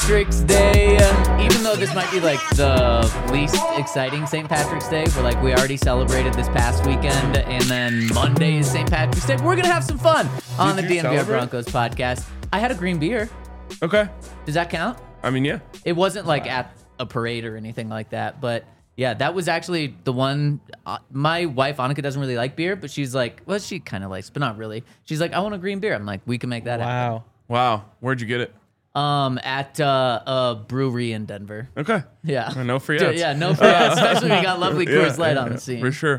Patrick's Day. Even though this might be like the least exciting St. Patrick's Day, we already celebrated this past weekend, and then Monday is St. Patrick's Day. We're gonna have some fun on the DNVR Broncos podcast. I had a green beer. Okay. Does that count? I mean, yeah. It wasn't like at a parade or anything like that, but yeah, that was actually the one. My wife Annika doesn't really like beer, but she's like, well, she kind of likes, but not really. She's like, I want a green beer. I'm like, we can make that happen. Wow. Where'd you get it? At a brewery in Denver. Okay. Yeah. No free ads. Yeah, no free ads. Especially when you got lovely Coors Light on the scene. For sure.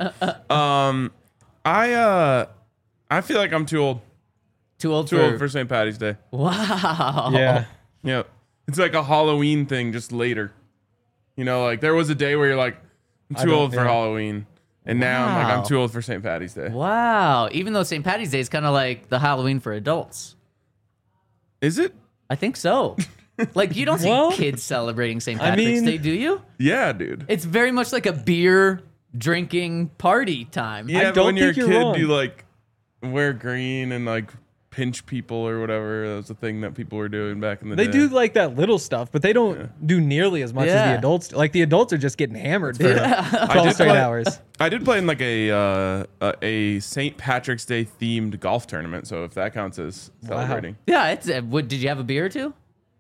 I feel like I'm too old. Too old for St. Patty's Day. Wow. Yeah. Yeah. It's like a Halloween thing, just later. You know, like there was a day where you're like, I'm too old for Halloween. And now I'm like, I'm too old for St. Patty's Day. Wow. Even though St. Patty's Day is kind of like the Halloween for adults. Is it? I think so. Like, you don't see kids celebrating St. Patrick's Day, do you? Yeah, dude. It's very much like a beer drinking party time. Yeah, but when you're a kid, you like wear green and like pinch people or whatever. That was the thing that people were doing back in the day. They do like that little stuff, but they don't do nearly as much as the adults do. Like the adults are just getting hammered for 12 straight hours. I did play in like a St. Patrick's Day themed golf tournament, so if that counts as celebrating. Yeah, it's. Did you have a beer or two?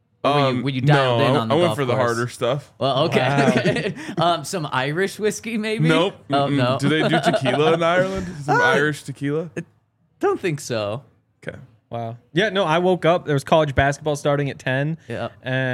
Or were you dialed in on the I went golf for the course? harder stuff. Well, okay. Some Irish whiskey, maybe? Nope. Oh, no. Do they do tequila in Ireland? Some Irish tequila? Don't think so. Okay. Wow. Yeah, no, I woke up. There was college basketball starting at 10. Yeah.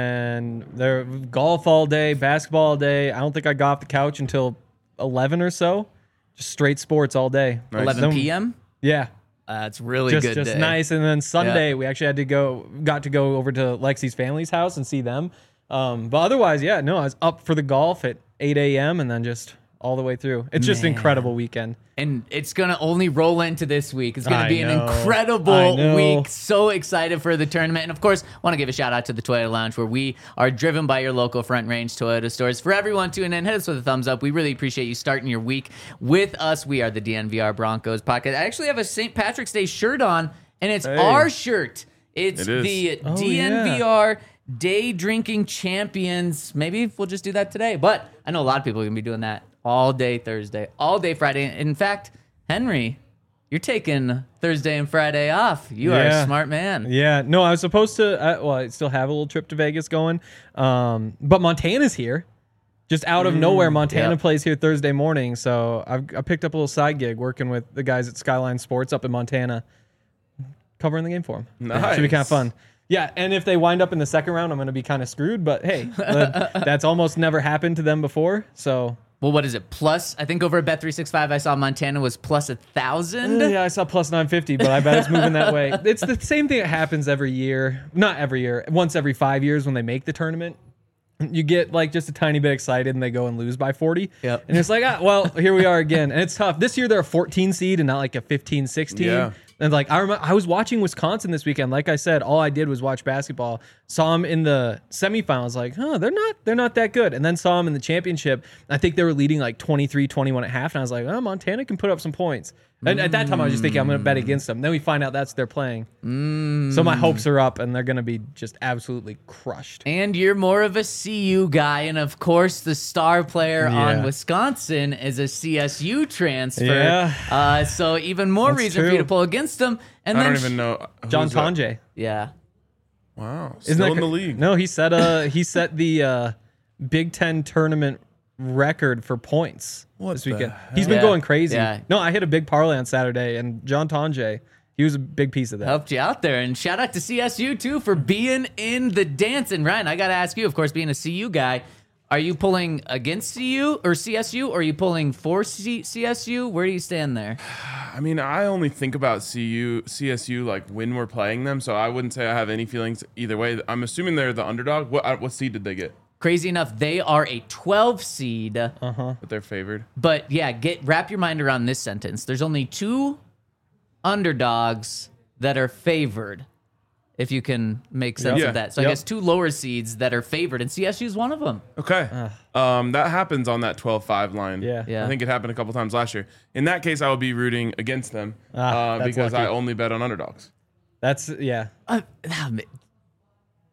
And there golf all day, basketball all day. I don't think I got off the couch until 11 or so. Just straight sports all day. Nice. 11 p.m.? Yeah. That's really just good Just day. nice. And then Sunday, we actually got to go over to Lexi's family's house and see them. But otherwise, I was up for the golf at 8 a.m. and then just all the way through. It's just an incredible weekend. And it's going to only roll into this week. It's going to be an incredible week. So excited for the tournament. And of course, want to give a shout out to the Toyota Lounge, where we are driven by your local Front Range Toyota stores. For everyone tuning in, hit us with a thumbs up. We really appreciate you starting your week with us. We are the DNVR Broncos podcast. I actually have a St. Patrick's Day shirt on, and it's our shirt. It's the DNVR Day Drinking Champions. Maybe we'll just do that today. But I know a lot of people are going to be doing that all day Thursday, all day Friday. In fact, Henry, you're taking Thursday and Friday off. You are a smart man. Yeah. No, I was supposed to, I still have a little trip to Vegas going. But Montana's here. Just out of nowhere, Montana plays here Thursday morning. So I picked up a little side gig working with the guys at Skyline Sports up in Montana, covering the game for them. Nice. Should be kind of fun. Yeah, and if they wind up in the second round, I'm going to be kind of screwed. But hey, that's almost never happened to them before. So... Well, what is it? Plus, I think over at Bet365, I saw Montana was plus 1,000. Yeah, I saw plus 950, but I bet it's moving that way. It's the same thing that happens every year. Not every year. Once every 5 years when they make the tournament. You get like just a tiny bit excited and they go and lose by 40. Yep. And it's like, well, here we are again. And it's tough. This year they're a 14 seed and not like a 15, 16. Yeah. And like I was watching Wisconsin this weekend. Like I said, all I did was watch basketball. Saw them in the semifinals. Like, they're not that good. And then saw them in the championship. I think they were leading like 23-21 at half. And I was like, Montana can put up some points. And at that time, I was just thinking I'm going to bet against them. Then we find out that's they're playing. So my hopes are up, and they're going to be just absolutely crushed. And you're more of a CU guy, and of course, the star player on Wisconsin is a CSU transfer. Yeah. So even more That's reason true. for you to pull against them. And I then don't even know. John who's that? Tonje. Yeah. Wow. Isn't Still that in the league. No, he set the Big Ten tournament record for points this weekend. He's been going crazy. Yeah. No, I hit a big parlay on Saturday, and John Tonje, he was a big piece of that. Helped you out there. And shout out to CSU, too, for being in the dance. And Ryan, I got to ask you, of course, being a CU guy, are you pulling against CU or CSU, or are you pulling for CSU? Where do you stand there? I mean, I only think about CSU like when we're playing them, so I wouldn't say I have any feelings either way. I'm assuming they're the underdog. What seed did they get? Crazy enough, they are a 12 seed. But they're favored. But yeah, wrap your mind around this sentence. There's only 2 underdogs that are favored, if you can make sense of that. So I guess 2 lower seeds that are favored, and CSU is one of them. Okay. That happens on that 12-5 line. Yeah. I think it happened a couple times last year. In that case, I would be rooting against them That's because lucky. I only bet on underdogs. That's, yeah. But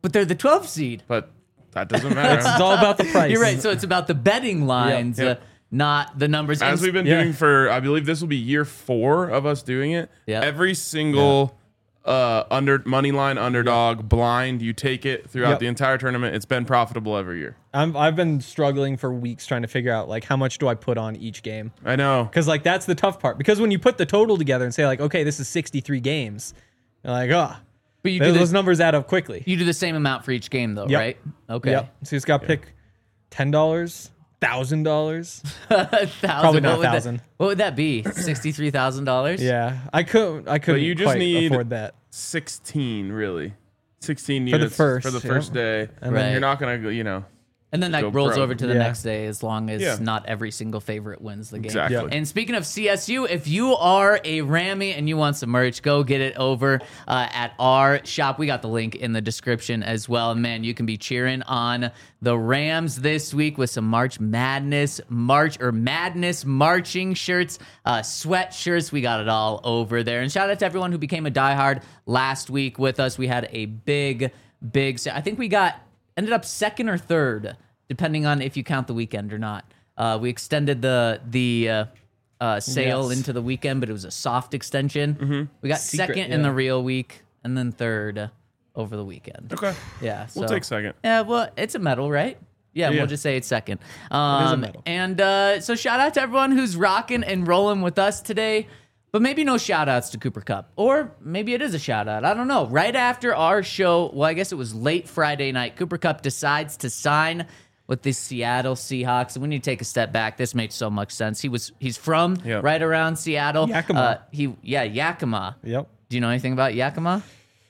But they're the 12th seed. But that doesn't matter. It's all about the price. You're right. So it's about the betting lines, Yep. not the numbers. As we've been doing for, I believe this will be year 4 of us doing it. Yep. Every single under money line underdog blind, you take it throughout the entire tournament. It's been profitable every year. I've been struggling for weeks trying to figure out like how much do I put on each game. I know. Because like that's the tough part. Because when you put the total together and say like, okay, this is 63 games, you're like, but you those numbers add up quickly. You do the same amount for each game, though, right? Okay. Yep. So you just got to pick $10, $1,000. Probably not 1,000. What would that be? $63,000? Yeah, I couldn't. But you just quite need afford that. 16, really. 16 For the units first, for the first day. Right. Then you're not going to, you know. And then that Go rolls pro. over to the Yeah. next day as long as Yeah. not every single favorite wins the game. Exactly. Yep. And speaking of CSU, if you are a Rammy and you want some merch, go get it over at our shop. We got the link in the description as well. And man, you can be cheering on the Rams this week with some March Madness marching shirts, sweatshirts. We got it all over there. And shout out to everyone who became a diehard last week with us. We had a big, I think we ended up second or third, depending on if you count the weekend or not. We extended the sale into the weekend, but it was a soft extension. Mm-hmm. We got Secret, second in the real week, and then third over the weekend. Okay. Yeah, We'll take second. Yeah, well, it's a medal, right? Yeah, Yeah. we'll just say it's second. medal. And so shout out to everyone who's rocking and rolling with us today. But maybe no shout outs to Cooper Kupp. Or maybe it is a shout out. I don't know. Right after our show, well, I guess it was late Friday night, Cooper Kupp decides to sign with the Seattle Seahawks. And we need to take a step back. This made so much sense. He's from right around Seattle. Yakima. Yakima. Yep. Do you know anything about Yakima?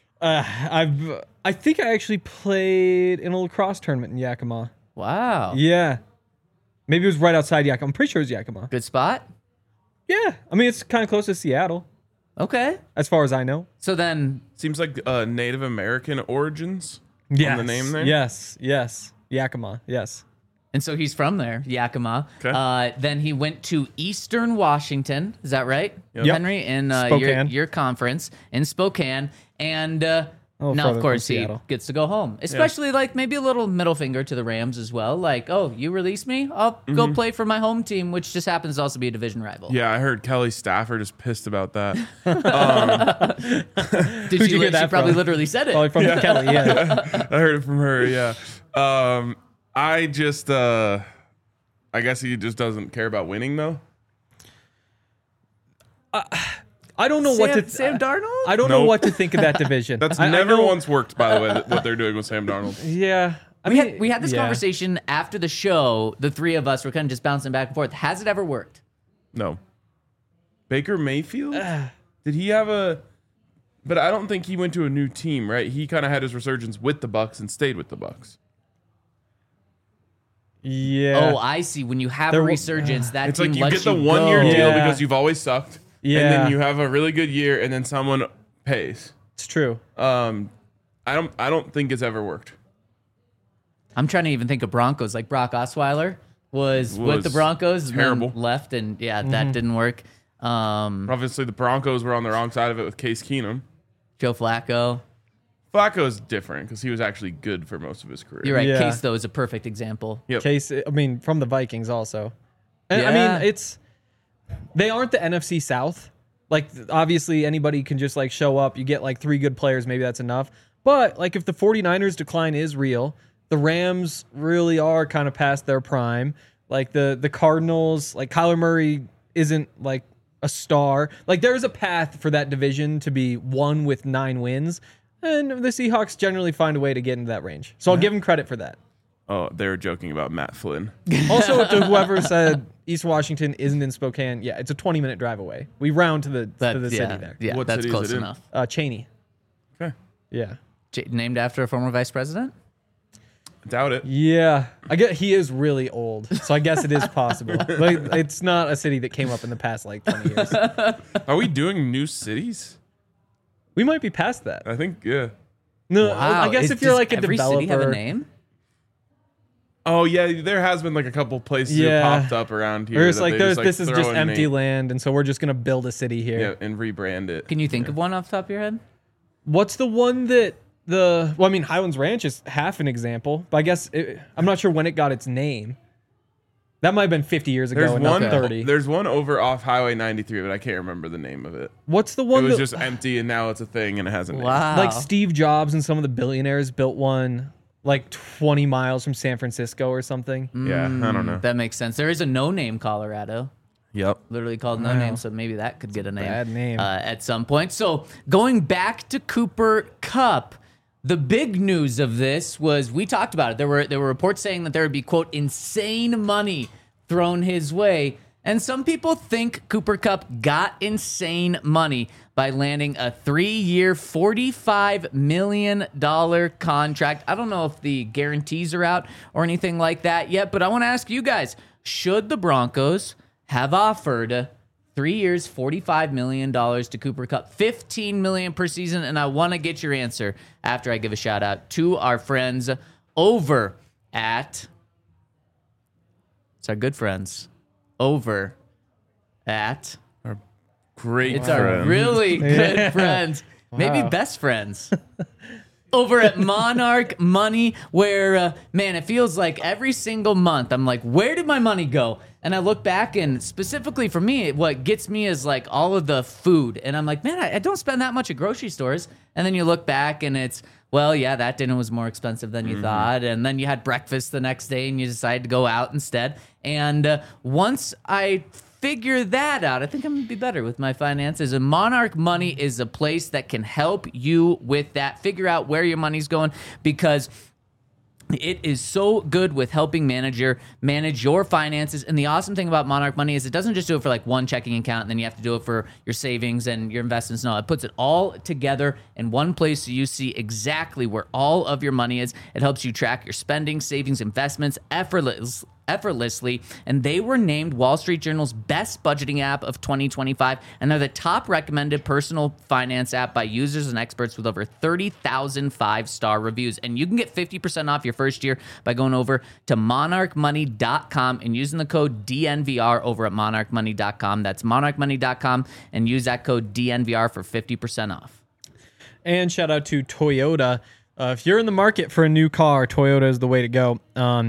I think I actually played in a lacrosse tournament in Yakima. Wow. Yeah. Maybe it was right outside Yakima. I'm pretty sure it was Yakima. Good spot? Yeah. I mean, it's kind of close to Seattle, Okay. as far as I know. So then, Seems like Native American origins Yes. on the name there. Yes. Yakima. Yes. and so he's from there, Yakima. Okay. Then he went to Eastern Washington. Is that right, Yep. Henry? In Spokane. your conference in Spokane. And now, further of from course, he Seattle. gets to go home. Especially, like, maybe a little middle finger to the Rams as well. Like, oh, you release me? I'll go play for my home team, which just happens to also be a division rival. Yeah, I heard Kelly Stafford is pissed about that. Did Who'd she, you hear that she probably from? literally said it. Probably from Kelly. Yeah. I heard it from her. Yeah. I just, I guess he just doesn't care about winning though. I don't know what to. Sam Darnold? I don't know Nope. what to think of that division. That's I never know- once worked, by the way, what they're doing with Sam Darnold. Yeah. I We mean, had this conversation after the show. The three of us were kind of just bouncing back and forth. Has it ever worked? No. Baker Mayfield? Did he have a? But I don't think he went to a new team, right? He kind of had his resurgence with the Bucks and stayed with the Bucks. Yeah. Oh, I see. When you have There a wa- resurgence, that It's team like you lets get the you 1 year go. deal Yeah. because you've always sucked. Yeah. And then you have a really good year, and then someone pays. It's true. I don't think it's ever worked. I'm trying to even think of Broncos. Like Brock Osweiler was with the Broncos, and terrible. then left, and that didn't work. Obviously, the Broncos were on the wrong side of it with Case Keenum. Joe Flacco. Flacco's different because he was actually good for most of his career. You're right. Yeah. Case though is a perfect example. Yep. Case, I mean, from the Vikings also. And I Yeah. mean, they aren't the NFC South. Like, obviously, anybody can just, like, show up. You get, like, 3 good players. Maybe that's enough. But, like, if the 49ers decline is real, the Rams really are kind of past their prime. Like, the Cardinals, like, Kyler Murray isn't, like, a star. Like, there's a path for that division to be won with 9 wins. And the Seahawks generally find a way to get into that range. So I'll give them credit for that. Oh, they were joking about Matt Flynn. Also, to whoever said East Washington isn't in Spokane, yeah, it's a 20-minute drive away. We round to the city there. Yeah, What that's city is close it in? enough. Cheney. Okay. Yeah. Named after a former vice president. Doubt it. Yeah. I get he is really old, so I guess it is possible. But it's not a city that came up in the past like 20 years. Are we doing new cities? We might be past that. I think, yeah. No, Wow. I guess if you're Does like a every developer. city have a name? Oh, yeah, there has been like a couple places Yeah. that popped up around here. Or it's that like they this is throw just a empty name. land, and so we're just gonna build a city here. Yeah, and rebrand it. Can you think of one off the top of your head? What's the one that Highlands Ranch is half an example, but I guess I'm not sure when it got its name. That might have been 50 years ago, and not 30. There's one over off Highway 93, but I can't remember the name of it. What's the one? It was just empty, and now it's a thing, and it has a name. Wow. Like Steve Jobs and some of the billionaires built one like 20 miles from San Francisco or something. Yeah, I don't know. That makes sense. There is a No Name Colorado. Yep. Literally called No Name, so maybe that could get a name. Bad name. At some point. So going back to Cooper Kupp, the big news of this was we talked about it. There were reports saying that there would be, quote, insane money thrown his way. And some people think Cooper Kupp got insane money by landing a 3-year, $45 million contract. I don't know if the guarantees are out or anything like that yet, but I want to ask you guys, should the Broncos have offered 3 years, $45 million to Cooper Kupp, $15 million per season? And I want to get your answer after I give a shout out to our friends over at... It's our good friends over at... Great It's friend. our really good friends, maybe best friends, over at Monarch Money, where, man, it feels like every single month I'm like, where did my money go? And I look back, and specifically for me, what gets me is like all of the food. And I'm like, man, I don't spend that much at grocery stores. And then you look back, and it's, well, yeah, that dinner was more expensive than you thought. And then you had breakfast the next day, and you decided to go out instead. And once I figure that out, I think I'm gonna be better with my finances. And Monarch Money is a place that can help you with that. Figure out where your money's going, because it is so good with helping manage your finances. And the awesome thing about Monarch Money is it doesn't just do it for like one checking account and then you have to do it for your savings and your investments. No, it puts it all together in one place so you see exactly where all of your money is. It helps you track your spending, savings, investments effortlessly, and they were named Wall Street Journal's best budgeting app of 2025, and they're the top recommended personal finance app by users and experts with over 30,000 5-star reviews. And you can get 50% off your first year by going over to monarchmoney.com and using the code DNVR over at monarchmoney.com. That's monarchmoney.com, and use that code DNVR for 50% off. And shout out to Toyota. If you're in the market for a new car, Toyota is the way to go.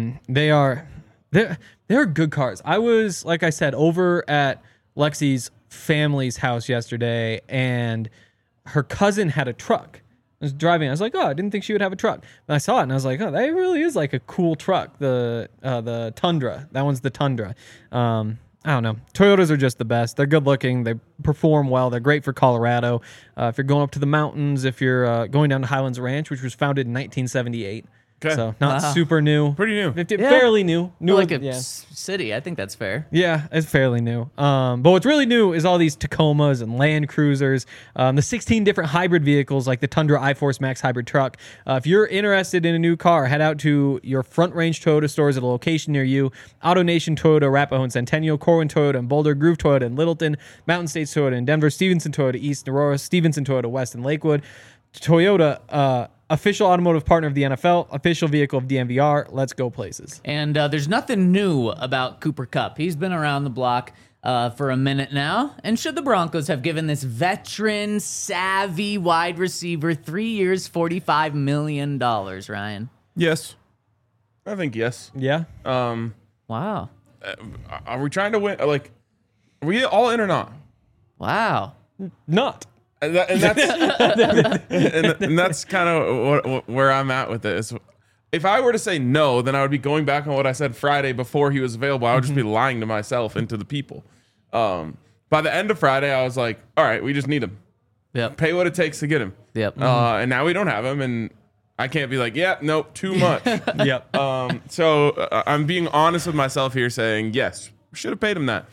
They're good cars. I was, like I said, over at Lexi's family's house yesterday, and her cousin had a truck. I was driving. I was like, oh, I didn't think she would have a truck. And I saw it, and I was like, oh, that really is like a cool truck. The Tundra. That one's the Tundra. I don't know. Toyotas are just the best. They're good looking. They perform well. They're great for Colorado. If you're going up to the mountains, if you're going down to Highlands Ranch, which was founded in 1978. Okay. So not super new. Pretty new. Fairly new. Like a city. I think that's fair. Yeah, it's fairly new. But what's really new is all these Tacomas and Land Cruisers, the 16 different hybrid vehicles like the Tundra iForce Max hybrid truck. If you're interested in a new car, head out to your Front Range Toyota stores at a location near you. AutoNation Toyota, Arapahoe and Centennial, Corwin Toyota and Boulder, Groove Toyota and Littleton, Mountain States Toyota in Denver, Stevenson Toyota East, Aurora, Stevenson Toyota West and Lakewood. Toyota, official automotive partner of the NFL, official vehicle of DNVR. Let's go places. And there's nothing new about Cooper Kupp. He's been around the block for a minute now. And should the Broncos have given this veteran, savvy wide receiver 3 years, $45 million, Ryan? Yes. I think yes. Yeah. Wow. Are we trying to win? Like, are we all in or not? Wow. Not. And that's and that's kind of where I'm at with this. If I were to say no, then I would be going back on what I said Friday before he was available. I would just be lying to myself and to the people. By the end of Friday, I was like, all right, we just need him. Yep. Pay what it takes to get him. Yep. And now we don't have him, and I can't be like, yeah, nope, too much. Yep. So I'm being honest with myself here, saying yes, we should have paid him that.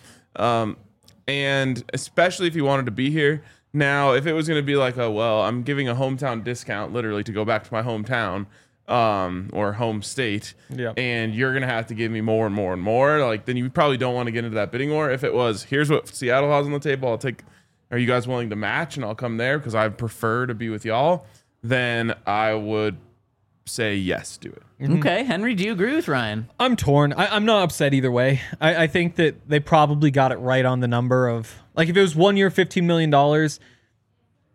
And especially if he wanted to be here. Now, if it was going to be like, oh, well, I'm giving a hometown discount literally to go back to my hometown or home state, and you're going to have to give me more and more and more, like, then you probably don't want to get into that bidding war. If it was, here's what Seattle has on the table, I'll take, are you guys willing to match? And I'll come there because I prefer to be with y'all, then I would say yes, do it. Okay. Henry, do you agree with Ryan? I'm torn. I'm not upset either way. I think that they probably got it right on the number of, like, if it was 1 year, $15 million,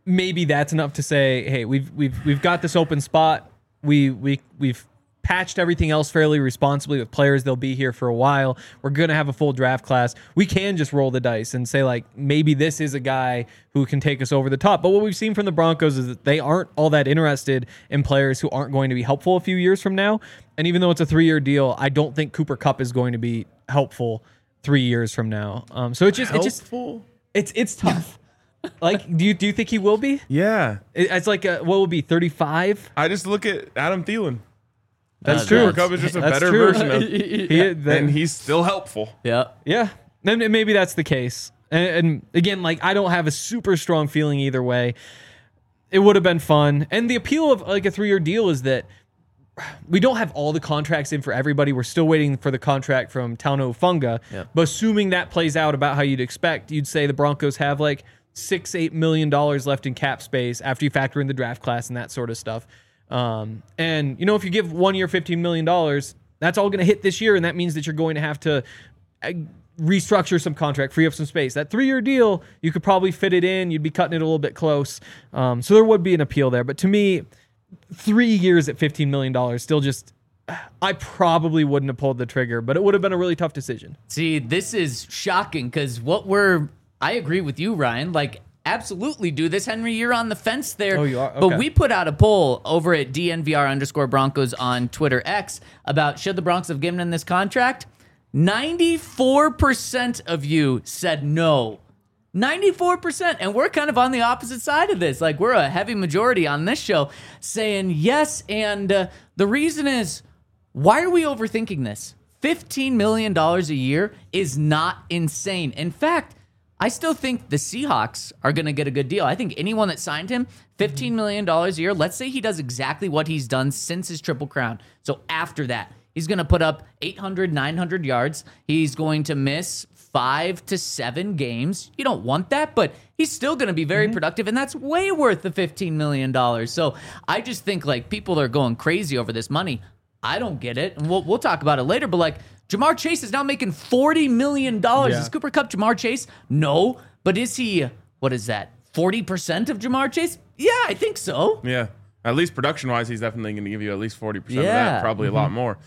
maybe that's enough to say, hey, we've got this open spot. We've patched everything else fairly responsibly with players. They'll be here for a while. We're going to have a full draft class. We can just roll the dice and say, like, maybe this is a guy who can take us over the top. But what we've seen from the Broncos is that they aren't all that interested in players who aren't going to be helpful a few years from now. And even though it's a 3-year deal, I don't think Cooper Kupp is going to be helpful 3 years from now. So it's tough. Like, do you think he will be? Yeah. It's like, what will be 35? I just look at Adam Thielen. That's true. Cooper Kupp is just a That's better true. version of and he's still helpful. Yeah. Yeah. Then maybe that's the case. And again, like, I don't have a super strong feeling either way. It would have been fun. And the appeal of like a 3-year deal is that we don't have all the contracts in for everybody. We're still waiting for the contract from Tauno Funga. Yep. But assuming that plays out about how you'd expect, you'd say the Broncos have like $6-8 million left in cap space after you factor in the draft class and that sort of stuff. And if you give 1 year $15 million, that's all going to hit this year, and that means that you're going to have to restructure some contract, free up some space. That 3-year deal, you could probably fit it in. You'd be cutting it a little bit close. So there would be an appeal there. But to me, 3 years at $15 million, still just, I probably wouldn't have pulled the trigger, but it would have been a really tough decision. See, this is shocking because I agree with you, Ryan. Like, absolutely do this. Henry, you're on the fence there. Oh, you are? Okay. But we put out a poll over at DNVR_Broncos on Twitter X about should the Broncos have given him this contract? 94% of you said no. 94%. And we're kind of on the opposite side of this. Like, we're a heavy majority on this show saying yes. And the reason is, why are we overthinking this? $15 million a year is not insane. In fact, I still think the Seahawks are going to get a good deal. I think anyone that signed him, $15 million a year, let's say he does exactly what he's done since his Triple Crown. So after that, he's going to put up 800, 900 yards. He's going to miss 5 to 7 games. You don't want that, but he's still going to be very productive, and that's way worth the $15 million. So I just think, like, people are going crazy over this money. I don't get it, and we'll talk about it later, but, like, Ja'Marr Chase is now making $40 million. Yeah. Is Cooper Kupp Ja'Marr Chase? No. But is he, what is that, 40% of Ja'Marr Chase? Yeah, I think so. Yeah. At least production-wise, he's definitely going to give you at least 40% of that, probably a lot more.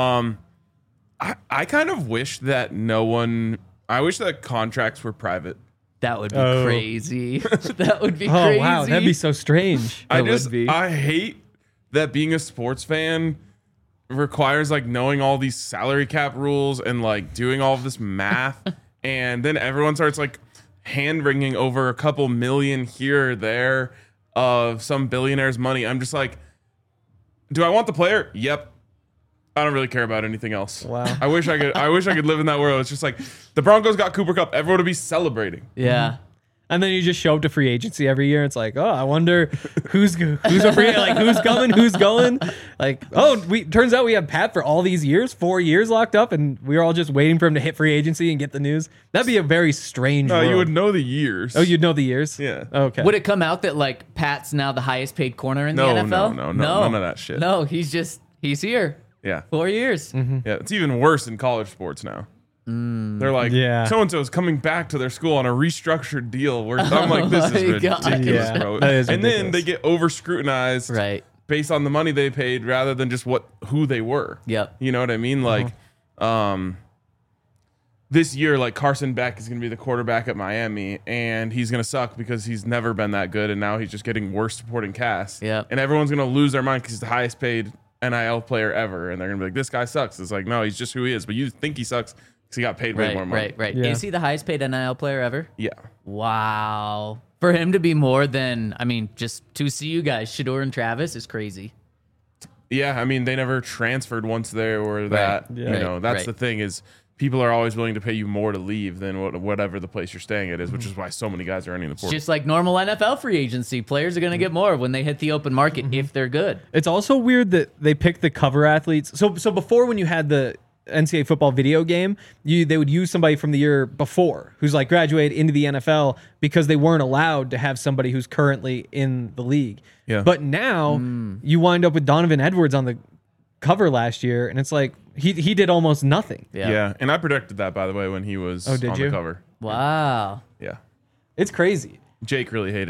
I kind of wish that I wish that contracts were private. That would be crazy. That would be crazy. Oh, wow. That'd be so strange. I hate that being a sports fan requires like knowing all these salary cap rules and like doing all of this math. And then everyone starts like hand-wringing over a couple million here or there of some billionaire's money. I'm just like, do I want the player? Yep. I don't really care about anything else. Wow. I wish I could live in that world. It's just like the Broncos got Cooper Kupp. Everyone would be celebrating. Yeah. And then you just show up to free agency every year. It's like, oh, I wonder who's a free, like who's coming, who's going. Like, turns out we have Pat for all these years, 4 years locked up, and we were all just waiting for him to hit free agency and get the news. That'd be a very strange. No, world. you would know the years. Oh, you'd know the years. Yeah. Okay. Would it come out that like Pat's now the highest paid corner in the NFL? No, none of that shit. No, he's here. Yeah. 4 years. Mm-hmm. Yeah, it's even worse in college sports now. They're like, so-and-so is coming back to their school on a restructured deal. Where I'm like, this is ridiculous, bro. That is and ridiculous. then they get over-scrutinized based on the money they paid rather than just who they were. Yep. You know what I mean? Like, this year, like Carson Beck is going to be the quarterback at Miami, and he's going to suck because he's never been that good, and now he's just getting worse supporting cast. Yep. And everyone's going to lose their mind because he's the highest paid NIL player ever, and they're going to be like, this guy sucks. It's like, no, he's just who he is, but you think he sucks because he got paid way more money. Right. Yeah. Is he the highest paid NIL player ever? Yeah. Wow. For him to be more than, just to see you guys, Shedeur and Travis is crazy. Yeah, they never transferred once they were that. Yeah. You know, that's the thing is people are always willing to pay you more to leave than whatever the place you're staying at is, which is why so many guys are earning the It's portal. just like normal NFL free agency. Players are going to get more when they hit the open market if they're good. It's also weird that they pick the cover athletes. So before, when you had the NCAA football video game, they would use somebody from the year before who's like graduated into the NFL because they weren't allowed to have somebody who's currently in the league. Yeah. But now you wind up with Donovan Edwards on the cover last year, and it's like he did almost nothing. Yeah. And I predicted that, by the way, when he was on the cover. Wow. Yeah. It's crazy. Jake really hated it.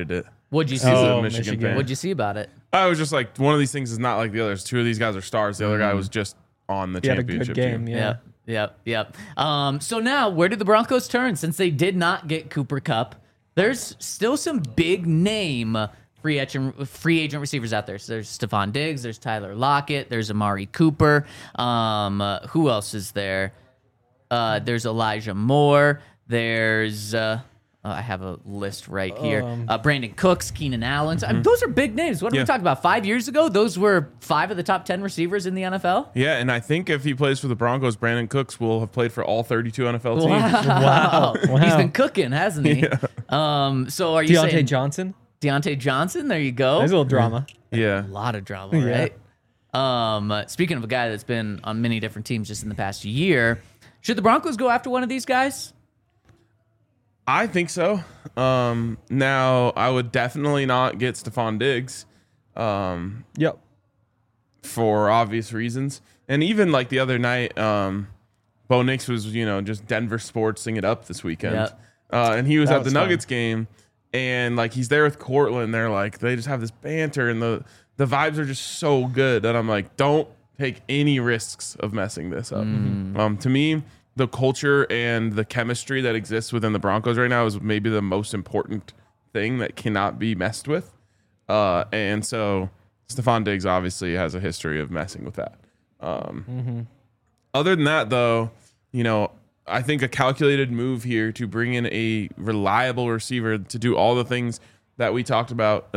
What'd you see? He's a Oh, Michigan Michigan. fan. What'd you see about it? I was just like, one of these things is not like the others. Two of these guys are stars. The other guy was just on the He had a championship good game. team. Yeah. Yep. So now, where did the Broncos turn since they did not get Cooper Kupp? There's still some big name free agent receivers out there. So there's Stephon Diggs, there's Tyler Lockett, there's Amari Cooper. Who else is there? There's Elijah Moore. There's I have a list right here. Brandon Cooks, Keenan Allen. I mean, those are big names. What are we talking about? 5 years ago, those were 5 of the top 10 receivers in the NFL. Yeah, and I think if he plays for the Broncos, Brandon Cooks will have played for all 32 NFL teams. Wow. Wow. He's been cooking, hasn't he? So are you Deontay saying Johnson. Deontay Johnson? There you go. There's a little drama. Yeah. A lot of drama, right? Speaking of a guy that's been on many different teams just in the past year, should the Broncos go after one of these guys? I think so. Now, I would definitely not get Stephon Diggs Yep. for obvious reasons. And even like the other night, Bo Nix was, just Denver sportsing it up this weekend. Yep. And he was That at the was Nuggets game, and like he's there with Cortland. They're like, they just have this banter, and the vibes are just so good that I'm like, don't take any risks of messing this up. To me, the culture and the chemistry that exists within the Broncos right now is maybe the most important thing that cannot be messed with. And so Stephon Diggs obviously has a history of messing with that. Other than that, though, I think a calculated move here to bring in a reliable receiver to do all the things that we talked about,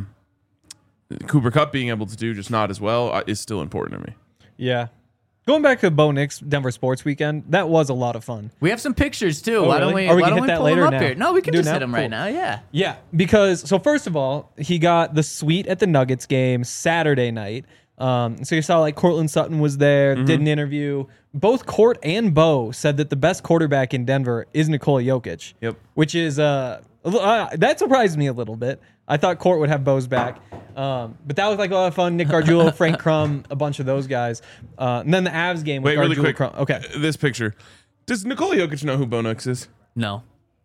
Cooper Kupp being able to do, just not as well, is still important to me. Yeah. Going back to Bo Nix Denver Sports Weekend, that was a lot of fun. We have some pictures too. Oh, why don't really? we? Or we why can don't hit we that pull later them up now? here? No, we can Do it just hit now? them right Cool. now. Yeah. Yeah, because so first of all, he got the suite at the Nuggets game Saturday night. So you saw like Cortland Sutton was there, did an interview. Both Court and Bo said that the best quarterback in Denver is Nikola Jokic. Yep. Which is that surprised me a little bit. I thought Court would have Bo's back. But that was like a lot of fun. Nick Gargiulo, Frank Crum, a bunch of those guys. And then the Avs game with Wait, really Gargiulo, quick. Crum. Okay. This picture. Does Nikola Jokic know who Bo Nix is? No.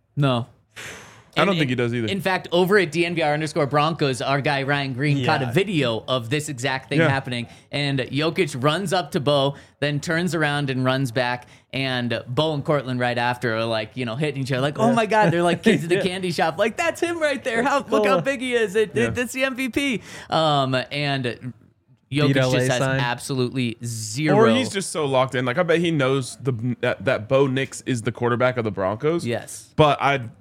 I don't think he does either. In fact, over at DNVR_Broncos, our guy Ryan Green caught a video of this exact thing happening. And Jokic runs up to Bo, then turns around and runs back. And Bo and Cortland right after are like, hitting each other. Like, oh my God, they're like kids at the candy shop. Like, that's him right there. Look how big he is. That's the MVP. And Jokic LA just has sign. absolutely zero. Or he's just so locked in. Like, I bet he knows that Bo Nix is the quarterback of the Broncos. Yes. But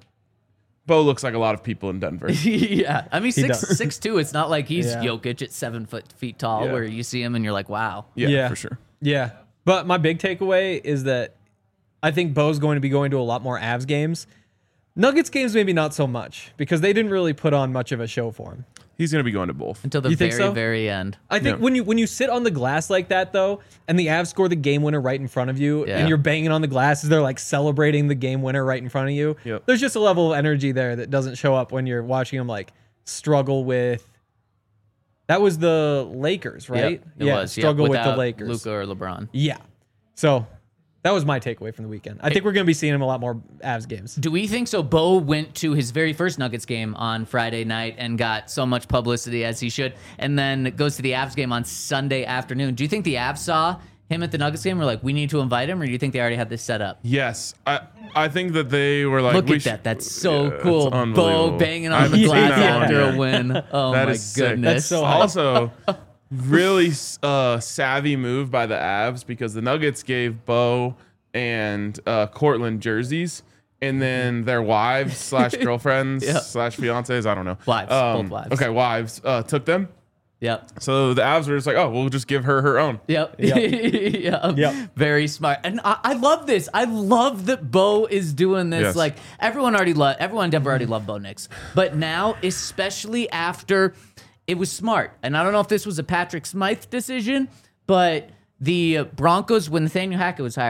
Bo looks like a lot of people in Denver. Yeah. I mean, does. 6'2". It's not like he's Yeah. Jokic at 7 feet tall Yeah. where you see him and you're like, wow. Yeah, for sure. Yeah. But my big takeaway is that I think Bo's going to be going to a lot more Avs games. Nuggets games, maybe not so much, because they didn't really put on much of a show for him. He's going to be going to both. Until the You think very, so? very end. I think when you sit on the glass like that, though, and the Avs score the game winner right in front of you, Yeah. and you're banging on the glass as they're like celebrating the game winner right in front of you, Yep. there's just a level of energy there that doesn't show up when you're watching them like struggle with. That was the Lakers, right? Yep, it was. Struggle with the without Lakers. Luka or LeBron. Yeah. So that was my takeaway from the weekend. I think we're going to be seeing him a lot more Avs games. Do we think so? Bo went to his very first Nuggets game on Friday night and got so much publicity as he should, and then goes to the Avs game on Sunday afternoon. Do you think the Avs saw him at the Nuggets game? We're like, we need to invite him, or do you think they already had this set up? Yes. I think that they were like, Look we at that. should- That's so Yeah, cool. it's Bo unbelievable. banging I on the haven't seen glass that one after yet. a win. Oh That my is sick. goodness. That's so hype. Also, really savvy move by the Avs, because the Nuggets gave Bo and Cortland jerseys, and then their wives / girlfriends Yeah. / fiancés, I don't know. Wives, both wives. Okay, wives took them. Yep. So the Avs were just like, oh, we'll just give her own. Yep. Yep. Yep. Very smart. And I love this. I love that Bo is doing this. Yes. Like everyone in Denver already loved Bo Nix. But now, especially after it was smart. And I don't know if this was a Patrick Smythe decision, but the Broncos, when Nathaniel Hackett was hired,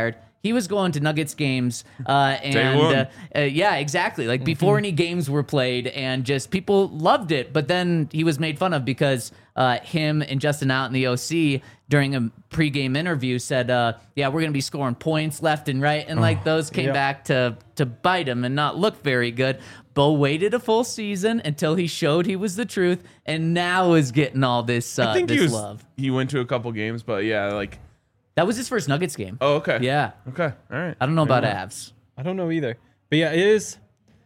he was going to Nuggets games, and yeah, exactly. Like before any games were played, and just people loved it. But then he was made fun of because him and Justin Out in the OC during a pregame interview said, "Yeah, we're gonna be scoring points left and right," and like those came back to bite him and not look very good. Bo waited a full season until he showed he was the truth, and now is getting all this I think love. He went to a couple games, but yeah, like. That was his first Nuggets game. Oh, okay. Yeah. Okay. All right. I don't know about Avs. I don't know either. But yeah, it is.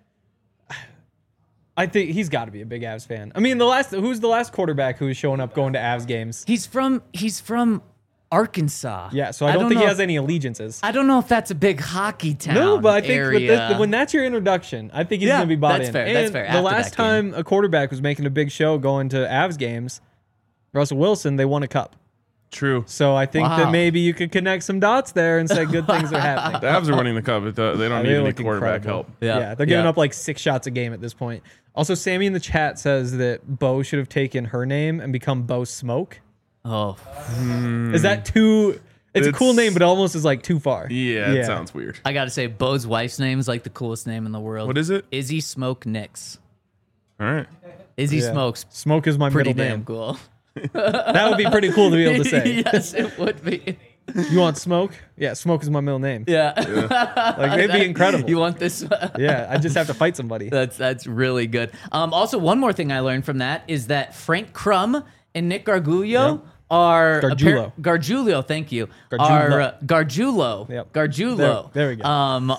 I think he's got to be a big Avs fan. I mean, who's the last quarterback who was showing up going to Avs games? He's from Arkansas. Yeah, so I don't think he has any allegiances. I don't know if that's a big hockey town. No, but I think area. when that's your introduction, I think he's going to be bought that's in. fair. And That's fair. the After last that game. time a quarterback was making a big show going to Avs games, Russell Wilson, they won a cup. True. So I think that maybe you could connect some dots there and say good things are happening. The Avs are winning the cup. They don't need any quarterback help. Yeah, they're giving up like 6 shots a game at this point. Also, Sammy in the chat says that Bo should have taken her name and become Bo Smoke. Oh. Is that too... It's a cool name, but it almost is like too far. Yeah, it sounds weird. I got to say, Bo's wife's name is like the coolest name in the world. What is it? Izzy Smoke Nix. All right. Izzy Smokes. Smoke is my Pretty middle damn name. cool. That would be pretty cool to be able to say. Yes, it would be. You want Smoke? Yeah, Smoke is my middle name. Yeah. Like, it'd be incredible. You want this? Yeah, I just have to fight somebody. That's really good. Also, one more thing I learned from that is that Frank Crum and Nick Gargiulo are Gargiulo. Thank you. Gargiulo. Gargiulo. Yep. Gargiulo. There we go.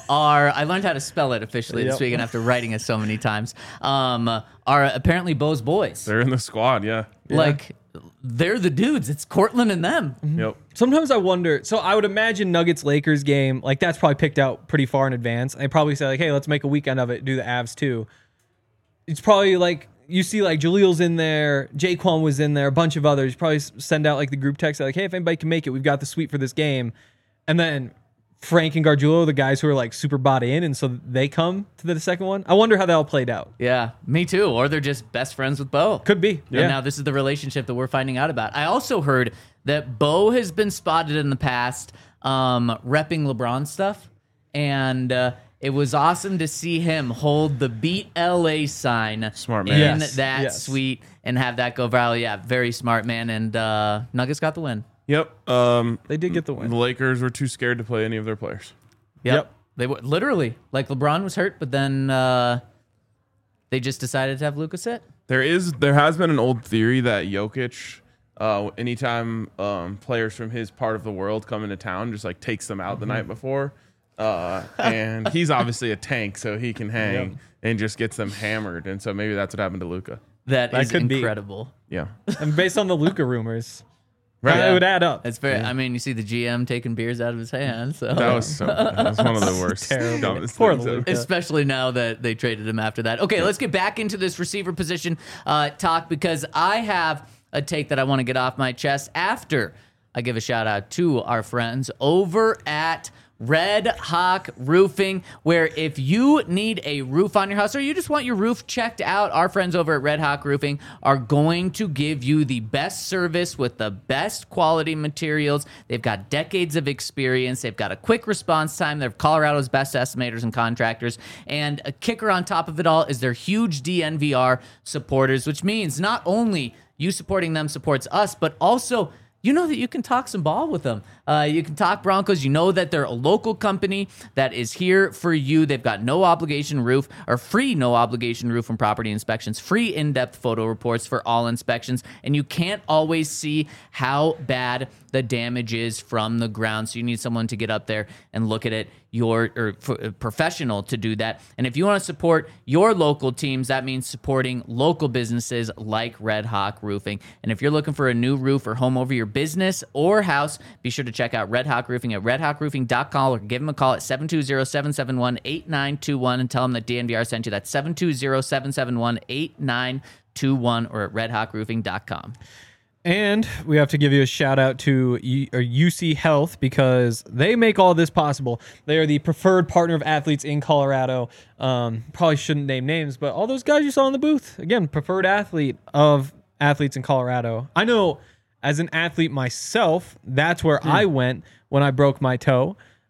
I learned how to spell it officially this weekend after writing it so many times. Are apparently Bo's boys. They're in the squad. Yeah. Like they're the dudes. It's Cortland and them. Yep. Sometimes I wonder. So I would imagine Nuggets-Lakers game, like that's probably picked out pretty far in advance. They probably say like, hey, let's make a weekend of it, do the Avs too. It's probably like, you see like Jaleel's in there, Jaquan was in there, a bunch of others. Probably send out like the group text like, hey, if anybody can make it, we've got the suite for this game. And then Frank and Gargiulo, the guys who are like super bought in, and so they come to the second one. I wonder how that all played out. Yeah, me too. Or they're just best friends with Bo. Could be. Yeah. And now this is the relationship that we're finding out about. I also heard that Bo has been spotted in the past repping LeBron stuff, and it was awesome to see him hold the Beat LA sign Smart man. in Yes. that suite and have that go viral. Yeah, very smart man. And Nuggets got the win. Yep. They did get the win. The Lakers were too scared to play any of their players. Yep. They were literally like LeBron was hurt, but then they just decided to have Luka sit. There has been an old theory that Jokic, anytime players from his part of the world come into town, just like takes them out the night before. And he's obviously a tank, so he can hang and just gets them hammered. And so maybe that's what happened to Luka. That is could be. incredible. Yeah. And based on the Luka rumors, Right. it would add up. It's very. I mean, you see the GM taking beers out of his hand. So That was one of the worst. Terrible. Dumbest Poor things ever. Luka. especially now that they traded him after that. Okay, let's get back into this receiver position talk because I have a take that I want to get off my chest after I give a shout out to our friends over at Red Hawk Roofing, where if you need a roof on your house or you just want your roof checked out, our friends over at Red Hawk Roofing are going to give you the best service with the best quality materials. They've got decades of experience. They've got a quick response time. They're Colorado's best estimators and contractors. And a kicker on top of it all is their huge DNVR supporters, which means not only you supporting them supports us, but also you know that you can talk some ball with them. You can talk Broncos. You know that they're a local company that is here for you. They've got no obligation roof or free no obligation roof and property inspections, free in-depth photo reports for all inspections, and you can't always see how bad the damage is from the ground. So you need someone to get up there and look at it. Professional to do that. And if you want to support your local teams, that means supporting local businesses like Red Hawk Roofing. And if you're looking for a new roof or home over your business or house, be sure to check out Red Hawk Roofing at redhawkroofing.com or give them a call at 720-771-8921 and tell them that DNVR sent you. That's 720-771-8921 or at redhawkroofing.com. And we have to give you a shout out to UC Health because they make all this possible. They are the preferred partner of athletes in Colorado. Probably shouldn't name names, but all those guys you saw in the booth, again, preferred athlete of athletes in Colorado. I know as an athlete myself, that's where I went when I broke my toe.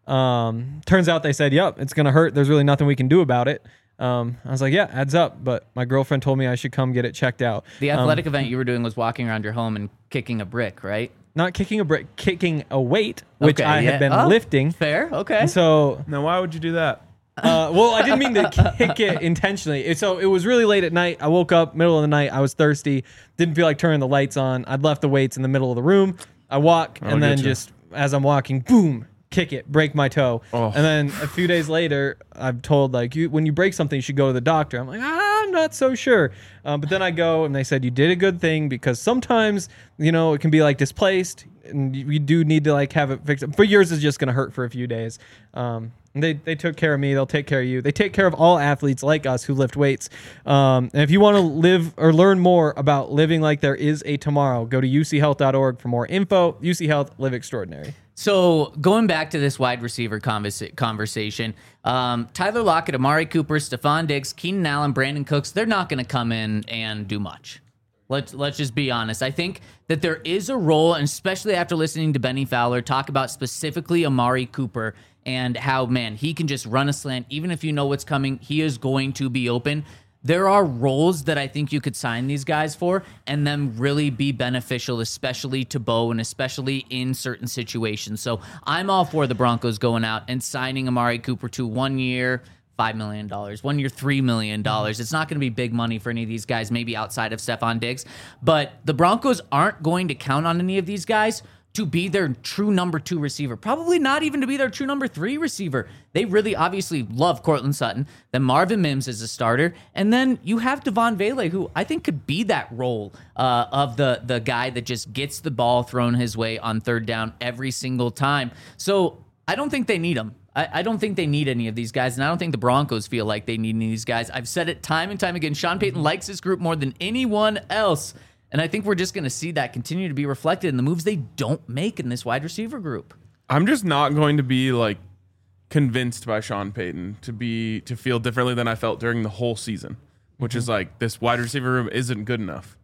Turns out they said, yep, it's going to hurt. There's really nothing we can do about it. I was like, yeah, adds up. But my girlfriend told me I should come get it checked out. The athletic event you were doing was walking around your home and kicking a brick, right? Not kicking a brick, kicking a weight, which I had been lifting. Fair, okay. So Now, why would you do that? well, I didn't mean to kick it intentionally. So it was really late at night. I woke up middle of the night. I was thirsty. Didn't feel like turning the lights on. I'd left the weights in the middle of the room. I walk, and then just as I'm walking, boom, kick it, break my toe. And then a few days later, I'm told, like, when you break something, you should go to the doctor. I'm like, I'm not so sure. But then I go, and they said, you did a good thing, because sometimes, it can be, like, displaced, and you do need to, like, have it fixed. But yours is just going to hurt for a few days. And they took care of me. They'll take care of you. They take care of all athletes like us who lift weights. And if you want to live or learn more about living like there is a tomorrow, go to uchealth.org for more info. UC Health, live extraordinary. So going back to this wide receiver conversation, Tyler Lockett, Amari Cooper, Stephon Diggs, Keenan Allen, Brandon Cooks, they're not going to come in and do much. Let's just be honest. I think that there is a role, and especially after listening to Benny Fowler talk about specifically Amari Cooper and how, man, he can just run a slant. Even if you know what's coming, he is going to be open. There are roles that I think you could sign these guys for and them really be beneficial, especially to Bo and especially in certain situations. So I'm all for the Broncos going out and signing Amari Cooper to 1 year, $5 million, 1 year, $3 million. It's not going to be big money for any of these guys, maybe outside of Stephon Diggs. But the Broncos aren't going to count on any of these guys to be their true number 2 receiver. Probably not even to be their true number 3 receiver. They really obviously love Cortland Sutton. Then Marvin Mims is a starter. And then you have Devon Vele, who I think could be that role of the guy that just gets the ball thrown his way on third down every single time. So I don't think they need him. I don't think they need any of these guys, and I don't think the Broncos feel like they need any of these guys. I've said it time and time again. Sean Payton likes this group more than anyone else. And I think we're just going to see that continue to be reflected in the moves they don't make in this wide receiver group. I'm just not going to be like convinced by Sean Payton to feel differently than I felt during the whole season, which is like this wide receiver room isn't good enough.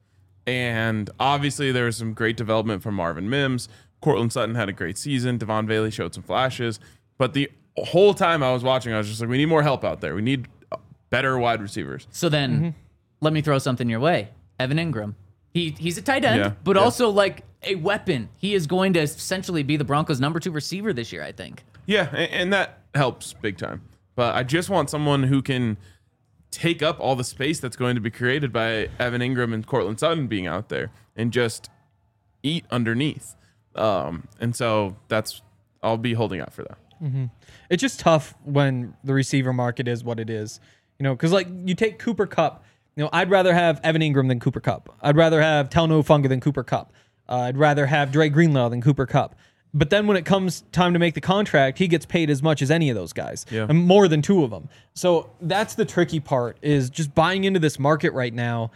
And obviously there was some great development from Marvin Mims. Cortland Sutton had a great season. Devon Vele showed some flashes. But the whole time I was watching, I was just like, we need more help out there. We need better wide receivers. So then let me throw something your way. Evan Ingram. He's a tight end, but also like a weapon. He is going to essentially be the Broncos' number 2 receiver this year, I think. Yeah, and that helps big time. But I just want someone who can take up all the space that's going to be created by Evan Ingram and Cortland Sutton being out there and just eat underneath. And so I'll be holding out for that. It's just tough when the receiver market is what it is, because like you take Cooper Kupp. I'd rather have Evan Ingram than Cooper Kupp. I'd rather have Talanoa Hufanga than Cooper Kupp. I'd rather have Dre Greenlaw than Cooper Kupp. But then when it comes time to make the contract, he gets paid as much as any of those guys, and more than 2 of them. So that's the tricky part, is just buying into this market right now.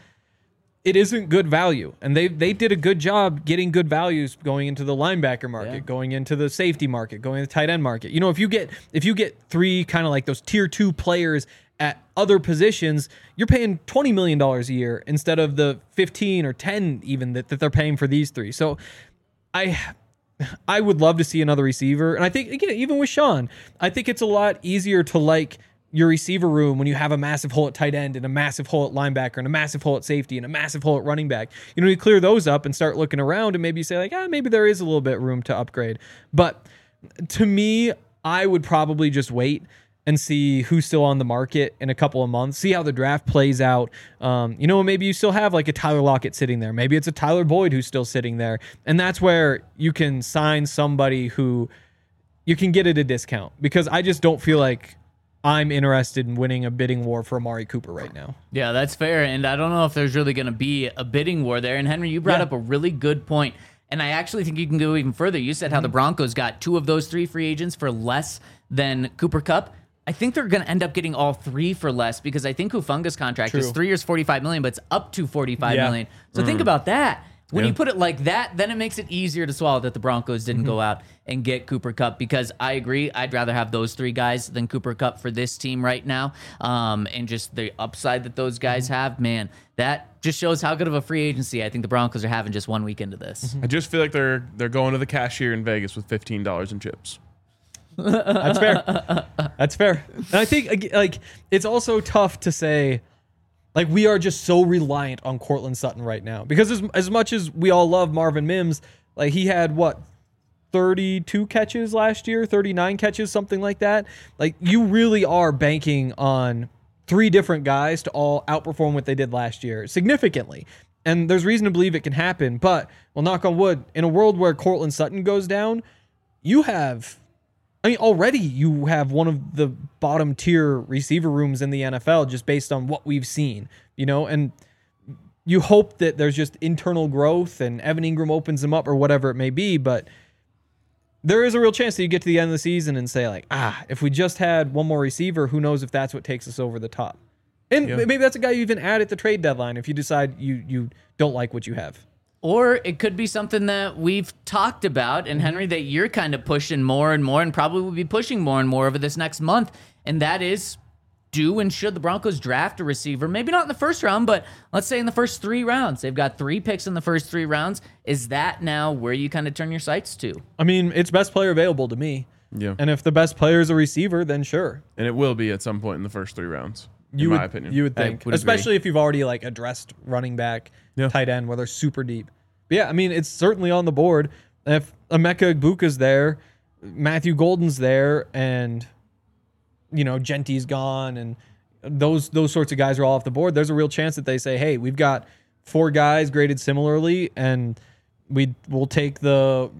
It isn't good value, and they did a good job getting good values going into the linebacker market, going into the safety market, going into the tight end market. If you get 3 kind of like those tier 2 players at other positions, you're paying $20 million a year instead of the 15 or 10 even that they're paying for these 3. So I would love to see another receiver. And I think, again, even with Sean, I think it's a lot easier to like your receiver room when you have a massive hole at tight end and a massive hole at linebacker and a massive hole at safety and a massive hole at running back. You clear those up and start looking around and maybe you say like, maybe there is a little bit room to upgrade. But to me, I would probably just wait and see who's still on the market in a couple of months, see how the draft plays out. Maybe you still have like a Tyler Lockett sitting there. Maybe it's a Tyler Boyd who's still sitting there. And that's where you can sign somebody who you can get at a discount, because I just don't feel like I'm interested in winning a bidding war for Amari Cooper right now. Yeah, that's fair. And I don't know if there's really going to be a bidding war there. And Henry, you brought up a really good point. And I actually think you can go even further. You said how the Broncos got 2 of those 3 free agents for less than Cooper Kupp. I think they're going to end up getting all 3 for less, because I think Hufanga's contract is 3 years, $45 million, but it's up to $45 million. So think about that. When you put it like that, then it makes it easier to swallow that the Broncos didn't go out and get Cooper Kupp, because I agree, I'd rather have those 3 guys than Cooper Kupp for this team right now. And just the upside that those guys have, man, that just shows how good of a free agency I think the Broncos are having just 1 week into this. I just feel like they're going to the cashier in Vegas with $15 in chips. That's fair. That's fair. And I think like it's also tough to say, like, we are just so reliant on Courtland Sutton right now because as much as we all love Marvin Mims, like he had 32 catches last year, 39 catches, something like that. Like you really are banking on 3 different guys to all outperform what they did last year significantly. And there's reason to believe it can happen, but well, knock on wood, in a world where Courtland Sutton goes down, already you have one of the bottom tier receiver rooms in the NFL just based on what we've seen, and you hope that there's just internal growth and Evan Ingram opens them up or whatever it may be. But there is a real chance that you get to the end of the season and say like, if we just had one more receiver, who knows if that's what takes us over the top. And maybe that's a guy you even add at the trade deadline if you decide you don't like what you have. Or it could be something that we've talked about, and Henry, that you're kind of pushing more and more and probably will be pushing more and more over this next month, and that is do and should the Broncos draft a receiver? Maybe not in the first round, but let's say in the first 3 rounds. They've got 3 picks in the first 3 rounds. Is that now where you kind of turn your sights to? I mean, it's best player available to me. Yeah. And if the best player is a receiver, then sure. And it will be at some point in the first 3 rounds. In my opinion. You would think. Especially if you've already like addressed running back, tight end, where they're super deep. But yeah, I mean, it's certainly on the board. If Emeka Egbuka's there, Matthew Golden's there, and Gentry's gone, and those sorts of guys are all off the board, there's a real chance that they say, hey, we've got 4 guys graded similarly, and we'll take the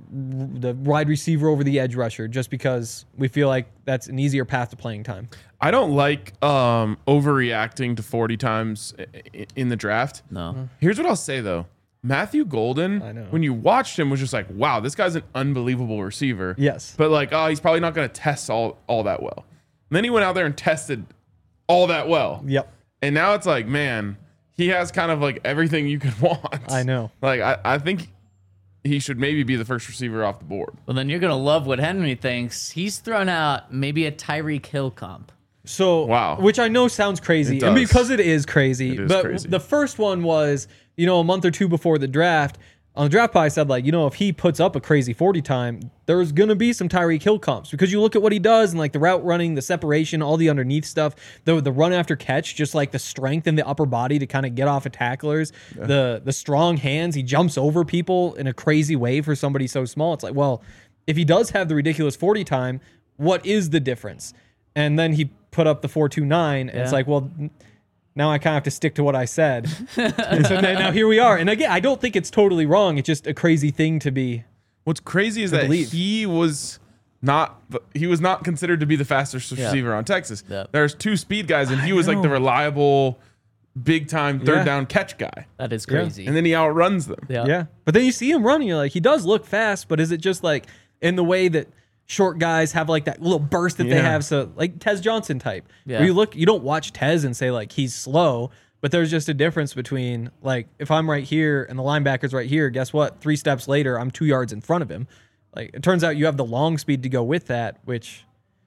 wide receiver over the edge rusher just because we feel like that's an easier path to playing time. I don't like overreacting to 40 times in the draft. No. Here's what I'll say, though. Matthew Golden, when you watched him, was just like, wow, this guy's an unbelievable receiver. Yes. But like, he's probably not going to test all that well. And then he went out there and tested all that well. Yep. And now it's like, man, he has kind of like everything you could want. I know. Like, I think he should maybe be the first receiver off the board. Well, then you're going to love what Henry thinks. He's thrown out maybe a Tyreek Hill comp. So, wow. Which I know sounds crazy, and because it is crazy. But crazy. The first one was, a month or 2 before the draft. On the draft pod, I said, like, if he puts up a crazy 40 time, there's going to be some Tyreek Hill comps because you look at what he does and like the route running, the separation, all the underneath stuff, the run after catch, just like the strength in the upper body to kind of get off of tacklers, the strong hands. He jumps over people in a crazy way for somebody so small. It's like, well, if he does have the ridiculous 40 time, what is the difference? And then he put up the 4.29, and it's like, well, now I kind of have to stick to what I said. And so now here we are. And again, I don't think it's totally wrong. It's just a crazy thing to be. What's crazy is that he was not considered to be the fastest receiver on Texas. Yep. There's 2 speed guys, and he was like the reliable, big time third down catch guy. That is crazy. And then he outruns them. Yeah. But then you see him running, you're like, he does look fast, but is it just like in the way that short guys have like that little burst that they have? So like Tez Johnson type. Yeah. Where you don't watch Tez and say like he's slow, but there's just a difference between like if I'm right here and the linebacker's right here, guess what? 3 steps later, I'm 2 yards in front of him. Like it turns out you have the long speed to go with that, which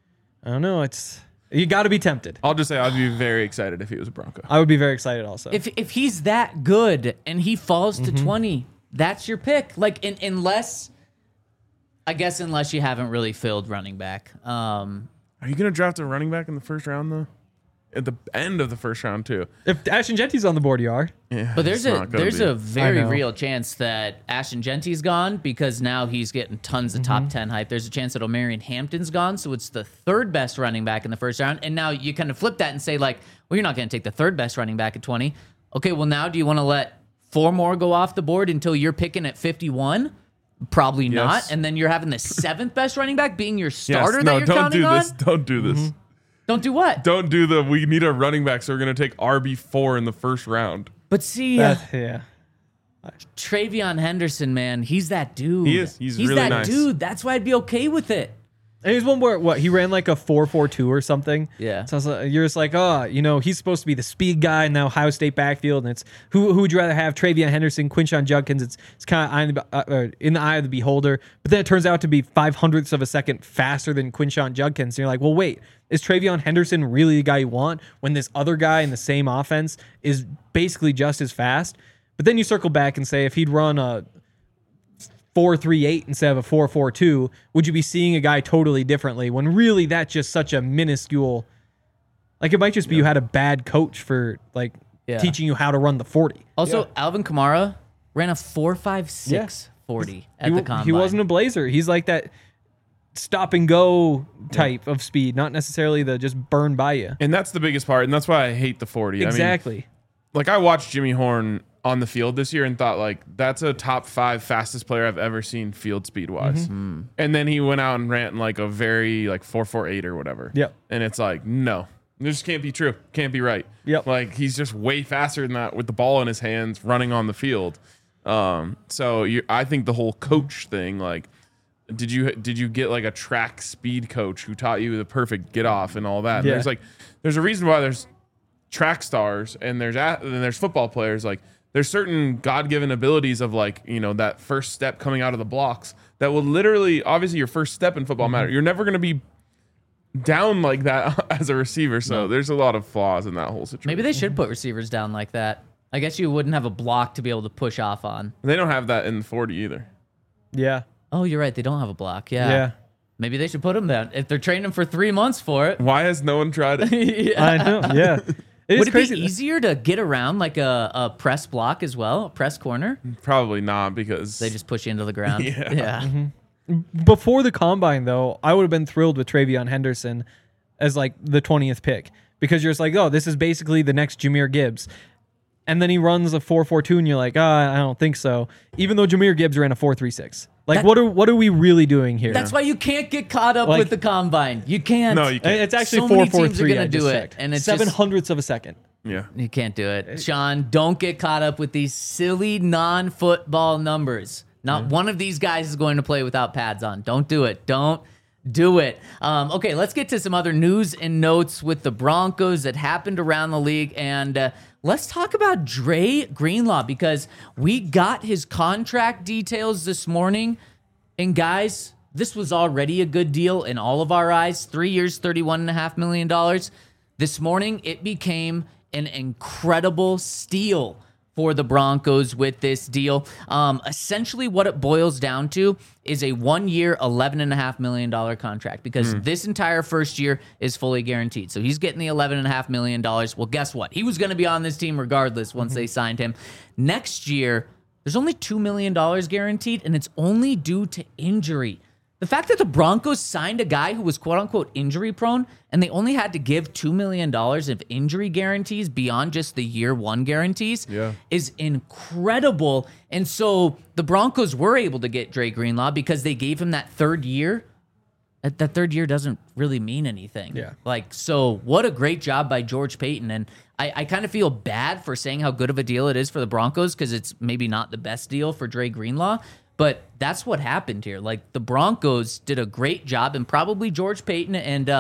I don't know. You got to be tempted. I'll just say I'd be very excited if he was a Bronco. I would be very excited also. If he's that good and he falls to 20, that's your pick. Like unless you haven't really filled running back. Are you going to draft a running back in the first round, though? At the end of the first round, too. If Ashton Genty's on the board, you are. Yeah, but there's a very real chance that Ashton Genty's gone because now he's getting tons of top 10 hype. There's a chance that O'Marion Hampton's gone, so it's the 3rd best running back in the first round. And now you kind of flip that and say, like, well, you're not going to take the 3rd best running back at 20. Okay, well, now do you want to let 4 more go off the board until you're picking at 51? Probably not. And then you're having the 7th best running back being your starter that you're counting on? Don't do this. Don't do what? Don't do we need a running back, so we're going to take RB4 in the first round. But see, Travion Henderson, man, he's that dude. He is. He's really that nice. Dude. That's why I'd be okay with it. And he's one where he ran like a 4.42 or something. Yeah. So you're just like, he's supposed to be the speed guy in the Ohio State backfield, and it's who would you rather have, Travion Henderson, Quinshon Judkins? It's kind of in the eye of the beholder. But then it turns out to be 0.05 of a second faster than Quinshon Judkins. And you're like, well, wait, is Travion Henderson really the guy you want when this other guy in the same offense is basically just as fast? But then you circle back and say if he'd run a 4.38 instead of a 4.42, would you be seeing a guy totally differently when really that's just such a minuscule, like it might just be you had a bad coach for like teaching you how to run the 40. Also, Alvin Kamara ran a 4.56 40 at the combine. He wasn't a blazer. He's like that stop and go type of speed, not necessarily the just burn by you. And that's the biggest part, and that's why I hate the 40. Exactly. I mean, like I watched Jimmy Horn on the field this year and thought like that's a top 5 fastest player I've ever seen field speed wise. And then he went out and ran like a very like 4.48 or whatever. Yep. And it's like, no, this can't be true. Can't be right. Yep. Like he's just way faster than that with the ball in his hands running on the field. I think the whole coach thing, like, did you get like a track speed coach who taught you the perfect get off and all that? Yeah. There's a reason why there's track stars and there's football players. Like there's certain God-given abilities of like, you know, that first step coming out of the blocks that will literally, obviously your first step in football matter. You're never going to be down like that as a receiver. So there's a lot of flaws in that whole situation. Maybe they should put receivers down like that. I guess you wouldn't have a block to be able to push off on. They don't have that in the 40 either. Yeah. Oh, you're right. They don't have a block. Yeah. Maybe they should put them down if they're training them for 3 months for it. Why has no one tried it? I know. Yeah. Would it be easier to get around like a press block as well, a press corner? Probably not because They just push you into the ground. Yeah. Before the combine, though, I would have been thrilled with Travion Henderson as like the 20th pick because you're just like, oh, this is basically the next Jahmyr Gibbs. And then he runs a 4.42 and you're like, I don't think so. Even though Jahmyr Gibbs ran a 4.36. Like, what are we really doing here? That's why you can't get caught up with the combine. You can't. No, you can't. It's actually so 4.43. many teams are gonna I do just it, checked. and it's 0.07 of a second. Yeah. You can't do it. Sean, don't get caught up with these silly non-football numbers. Not one of these guys is going to play without pads on. Don't do it. Don't do it. Okay, let's get to some other news and notes with the Broncos that happened around the league. And let's talk about Dre Greenlaw because we got his contract details this morning. And guys, this was already a good deal in all of our eyes. 3 years, $31.5 million. This morning, it became an incredible steal for the Broncos with this deal. Essentially, what it boils down to is a 1 year, $11.5 million contract because this entire first year is fully guaranteed. So he's getting the $11.5 million. Well, guess what? He was going to be on this team regardless once they signed him. Next year, there's only $2 million guaranteed, and it's only due to injury. The fact that the Broncos signed a guy who was quote-unquote injury-prone and they only had to give $2 million of injury guarantees beyond just the year one guarantees is incredible. And so the Broncos were able to get Dre Greenlaw because they gave him that third year. That third year doesn't really mean anything. Yeah. So what a great job by George Payton. And I kind of feel bad for saying how good of a deal it is for the Broncos because it's maybe not the best deal for Dre Greenlaw. But that's what happened here. Like the Broncos did a great job, and probably George Payton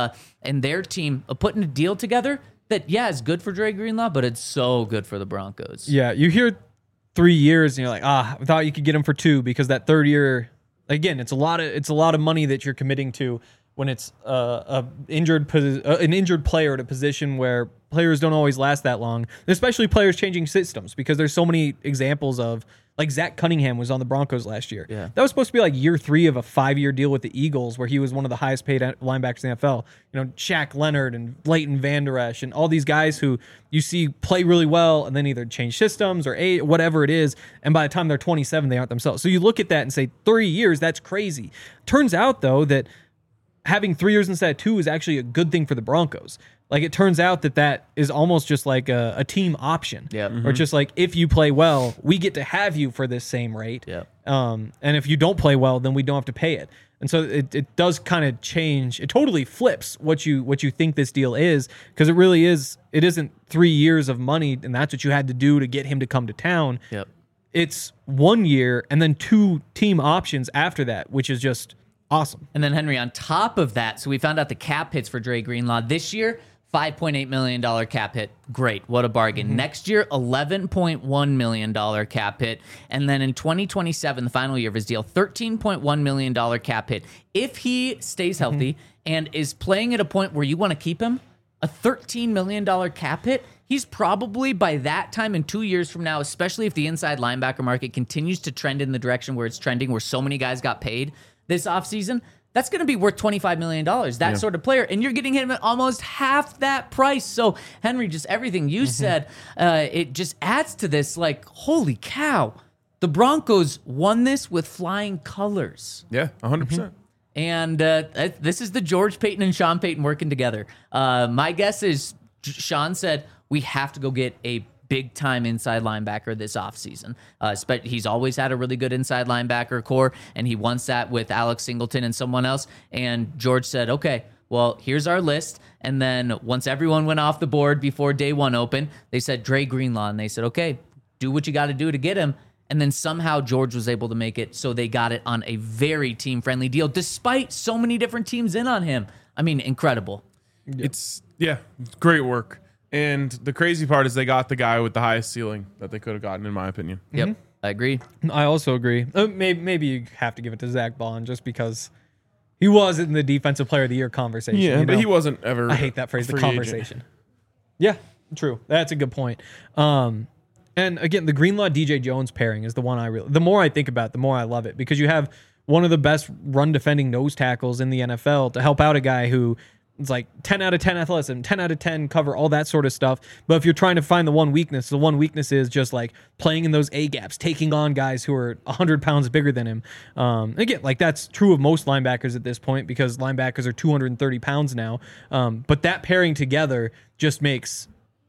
and their team of putting a deal together that is good for Dre Greenlaw, but it's so good for the Broncos. Yeah, you hear 3 years and you're like, I thought you could get him for 2 because that third year, again, it's a lot of money that you're committing to when it's an injured player at a position where players don't always last that long, especially players changing systems because there's so many examples of. Like Zach Cunningham was on the Broncos last year. Yeah. That was supposed to be like year 3 of a 5-year deal with the Eagles where he was one of the highest paid linebackers in the NFL. You know, Shaq Leonard and Leighton Vander Esch and all these guys who you see play really well and then either change systems or whatever it is. And by the time they're 27, they aren't themselves. So you look at that and say 3 years, that's crazy. Turns out though that having 3 years instead of 2 is actually a good thing for the Broncos. Like it turns out that is almost just like a team option. Yeah. Or just like if you play well, we get to have you for this same rate. Yeah. And if you don't play well, then we don't have to pay it. And so it does kind of change. It totally flips what you think this deal is because it really is. It isn't 3 years of money and that's what you had to do to get him to come to town. Yep. It's 1 year and then 2 team options after that, which is just awesome. And then Henry, on top of that, so we found out the cap hits for Dre Greenlaw this year. $5.8 million cap hit. Great. What a bargain. Next year, $11.1 million cap hit. And then in 2027, the final year of his deal, $13.1 million cap hit. If he stays healthy and is playing at a point where you want to keep him, a $13 million cap hit, he's probably by that time in 2 years from now, especially if the inside linebacker market continues to trend in the direction where it's trending, where so many guys got paid this offseason, that's going to be worth $25 million, that sort of player. And you're getting him at almost half that price. So, Henry, just everything you said, it just adds to this, like, holy cow. The Broncos won this with flying colors. Yeah, 100%. And this is the George Paton and Sean Payton working together. My guess is Sean said, we have to go get a big-time inside linebacker this offseason. But he's always had a really good inside linebacker core, and he wants that with Alex Singleton and someone else. And George said, okay, well, here's our list. And then once everyone went off the board before day one opened, they said, Dre Greenlaw. And they said, okay, do what you got to do to get him. And then somehow George was able to make it, so they got it on a very team-friendly deal, despite so many different teams in on him. I mean, incredible. It's great work. And the crazy part is they got the guy with the highest ceiling that they could have gotten, in my opinion. Yep, I agree. I also agree. Maybe you have to give it to Zach Bond just because he was in the Defensive Player of the Year conversation. Yeah, but he wasn't ever. I hate that phrase, the free conversation. agent. Yeah, true. That's a good point. And again, the Greenlaw DJ Jones pairing is the one the more I think about it, the more I love it, because you have one of the best run defending nose tackles in the NFL to help out a guy who it's like 10 out of 10 athleticism, 10 out of 10 cover, all that sort of stuff. But if you're trying to find the one weakness is just like playing in those A gaps, taking on guys who are 100 pounds bigger than him. Again, like that's true of most linebackers at this point because linebackers are 230 pounds now. But that pairing together just makes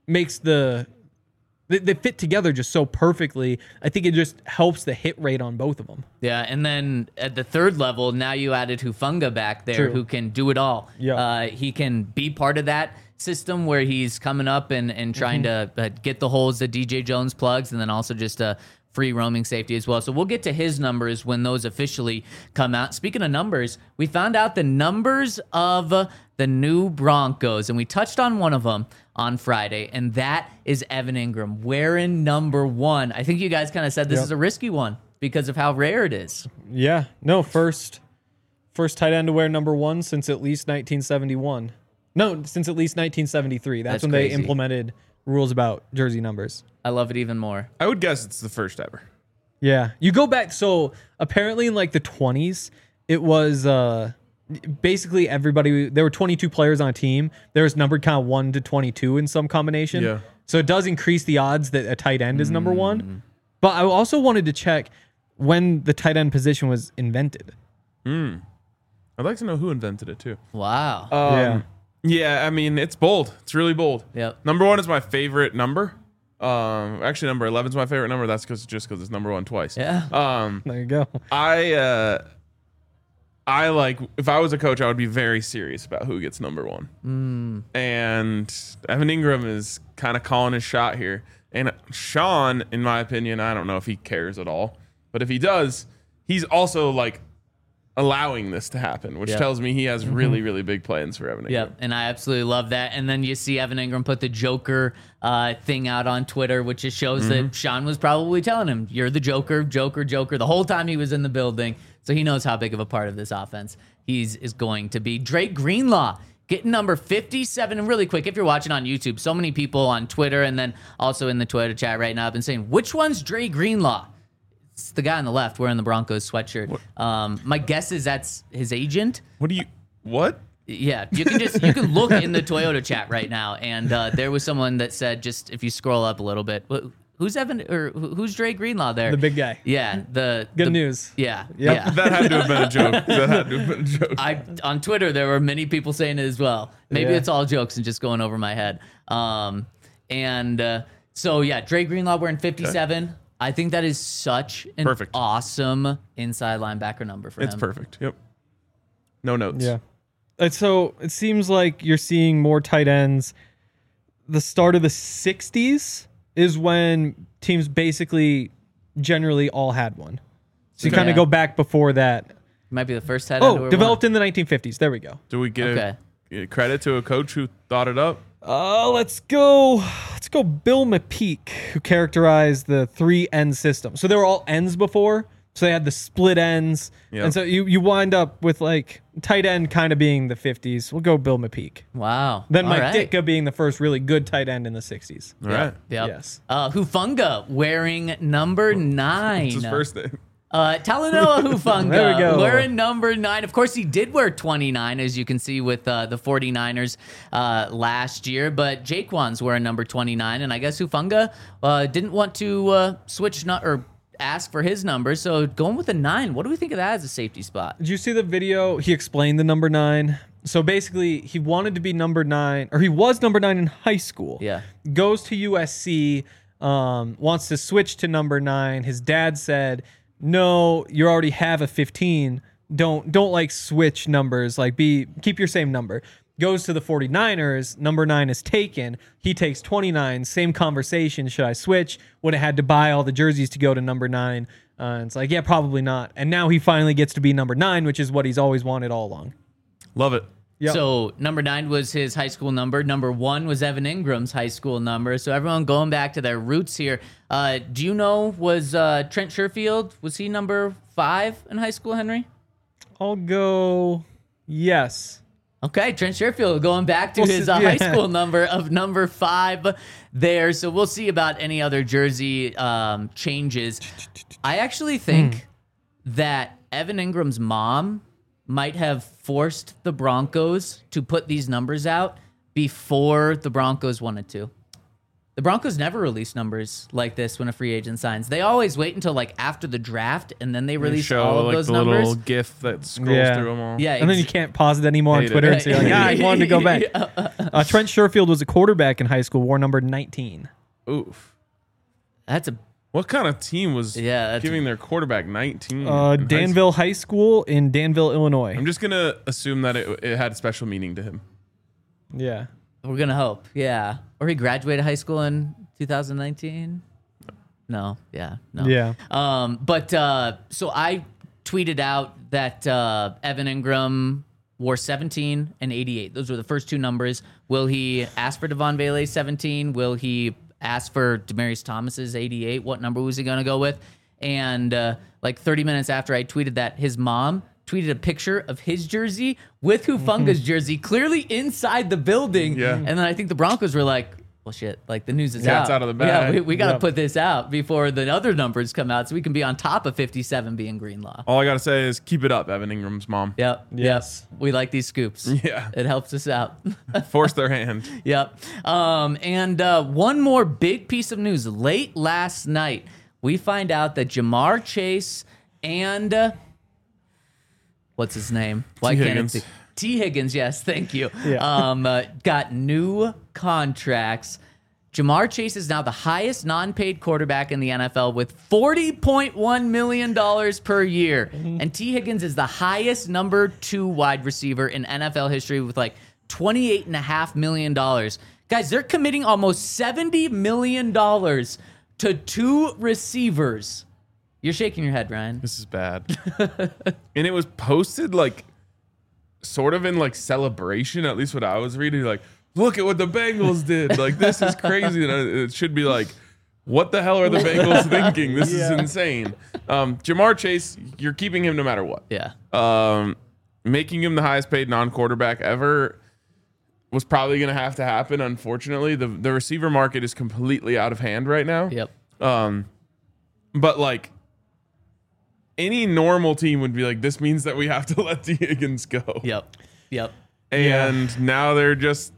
they fit together just so perfectly. I think it just helps the hit rate on both of them. Yeah, and then at the third level, now you added Hufanga back there, who can do it all. Yeah. He can be part of that system where he's coming up and trying to get the holes that DJ Jones plugs, and then also just a free roaming safety as well. So we'll get to his numbers when those officially come out. Speaking of numbers, we found out the numbers of the new Broncos, and we touched on one of them on Friday, and that is Evan Ingram wearing number 1. I think you guys kind of said this is a risky one because of how rare it is. Yeah. No, first tight end to wear number 1 since at least 1971. No, since at least 1973. That's when crazy. They implemented rules about jersey numbers. I love it even more. I would guess it's the first ever. Yeah. You go back, so apparently in like the 20s, it was basically everybody, there were 22 players on a team. There was numbered kind of 1 to 22 in some combination. Yeah. So it does increase the odds that a tight end is number 1. But I also wanted to check when the tight end position was invented. I'd like to know who invented it too. Wow. Yeah, I mean, it's bold. It's really bold. Yep. Number 1 is my favorite number. Actually, number 11 is my favorite number. That's because it's number 1 twice. Yeah. There you go. I like, if I was a coach, I would be very serious about who gets number 1. And Evan Ingram is kind of calling his shot here. And Sean, in my opinion, I don't know if he cares at all, but if he does, he's also like allowing this to happen, which tells me he has really, really big plans for Evan Ingram. Yep, and I absolutely love that. And then you see Evan Ingram put the Joker thing out on Twitter, which just shows that Sean was probably telling him, you're the Joker, the whole time he was in the building. So he knows how big of a part of this offense he is going to be. Drake Greenlaw getting number 57. And really quick, if you're watching on YouTube, so many people on Twitter and then also in the Twitter chat right now have been saying, which one's Drake Greenlaw? It's the guy on the left wearing the Broncos sweatshirt. My guess is that's his agent. What? Yeah, you can look in the Toyota chat right now, and there was someone that said, just if you scroll up a little bit, who's who's Drake Greenlaw there? The big guy. Yeah, Good news. Yeah, Yep. yeah. That had to have been a joke. On Twitter, there were many people saying it as well. Maybe it's all jokes and just going over my head. So yeah, Drake Greenlaw wearing 57. Okay. I think that is such an awesome inside linebacker number for him. It's perfect. Yep. No notes. Yeah. And so it seems like you're seeing more tight ends. The start of the 60s is when teams basically generally all had one. So you kind of go back before that. Might be the first tight end. Developed in the 1950s. There we go. Do we get credit to a coach who thought it up? Let's go Bill McPeak, who characterized the 3 end system. So they were all ends before, So they had the split ends. Yep. And so you wind up with like tight end kind of being the 50s. We'll go Bill McPeak. Wow. Then All Mike right. Ditka being the first really good tight end in the 60s. All right. Yep. Yes. Hufunga wearing number 9. It's his first name. Talanoa Hufunga There we go. wearing number 9. Of course, he did wear 29, as you can see with the 49ers last year. But Jaquan's wearing number 29, and I guess Hufunga didn't want to switch or ask for his number, so going with a 9. What do we think of that as a safety spot? Did you see the video? He explained the number 9. So basically, he wanted to be number 9, or he was number 9 in high school. Yeah. Goes to USC, wants to switch to number 9. His dad said, "No, you already have a 15. Don't like switch numbers. Like keep your same number." Goes to the 49ers, number 9 is taken. He takes 29. Same conversation. Should I switch? Would have had to buy all the jerseys to go to number 9. It's like, yeah, probably not. And now he finally gets to be number 9, which is what he's always wanted all along. Love it. Yep. So number 9 was his high school number. Number 1 was Evan Ingram's high school number. So everyone going back to their roots here. Do you know, was Trent Sherfield, was he number 5 in high school, Henry? I'll go yes. Okay, Trent Sherfield going back to We'll his see- high yeah. school number of number 5 there. So we'll see about any other jersey changes. I actually think that Evan Ingram's mom might have forced the Broncos to put these numbers out before the Broncos wanted to. The Broncos never release numbers like this when a free agent signs. They always wait until like after the draft, and then they release Show all of like those the numbers. little GIF that scrolls Yeah. through them all. Yeah, And then you can't pause it anymore on Hate it. Twitter and say, like, I wanted to go back. Yeah. Trent Sherfield was a quarterback in high school, wore number 19. Oof. That's a What kind of team was Yeah, that's- giving their quarterback 19? in high school? Danville High School in Danville, Illinois. I'm just going to assume that it had special meaning to him. Yeah. We're gonna hope, yeah. Or he graduated high school in 2019. No, yeah, no. Yeah. So I tweeted out that Evan Ingram wore 17 and 88. Those were the first two numbers. Will he ask for Devon Bailey's 17? Will he ask for Demaryius Thomas's 88? What number was he gonna go with? And like 30 minutes after I tweeted that, his mom tweeted a picture of his jersey with Hufunga's jersey, clearly inside the building. Yeah. And then I think the Broncos were like, well, shit, like the news is Yeah, out. it's out of the bag. Yeah, we got to Yep. put this out before the other numbers come out so we can be on top of 57 being Greenlaw. All I got to say is keep it up, Evan Ingram's mom. Yep. Yes. Yep. We like these scoops. Yeah. It helps us out. Force their hand. Yep. And one more big piece of news. Late last night, we find out that Jamar Chase and what's his name? Why T. can't Higgins. it be? T. Higgins, yes, thank you. Yeah. Got new contracts. Jamar Chase is now the highest non-paid quarterback in the NFL with $40.1 million per year. And T. Higgins is the highest number 2 wide receiver in NFL history with like $28.5 million. Guys, they're committing almost $70 million to 2 receivers. You're shaking your head, Ryan. This is bad. And it was posted like sort of in like celebration, at least what I was reading. Like, look at what the Bengals did. Like, this is crazy. And it should be like, what the hell are the Bengals thinking? This is insane. Jamar Chase, you're keeping him no matter what. Yeah. Making him the highest paid non-quarterback ever was probably going to have to happen. Unfortunately, the receiver market is completely out of hand right now. Yep. But like any normal team would be like, this means that we have to let T. Higgins go. Yep. Yep. And now they're just,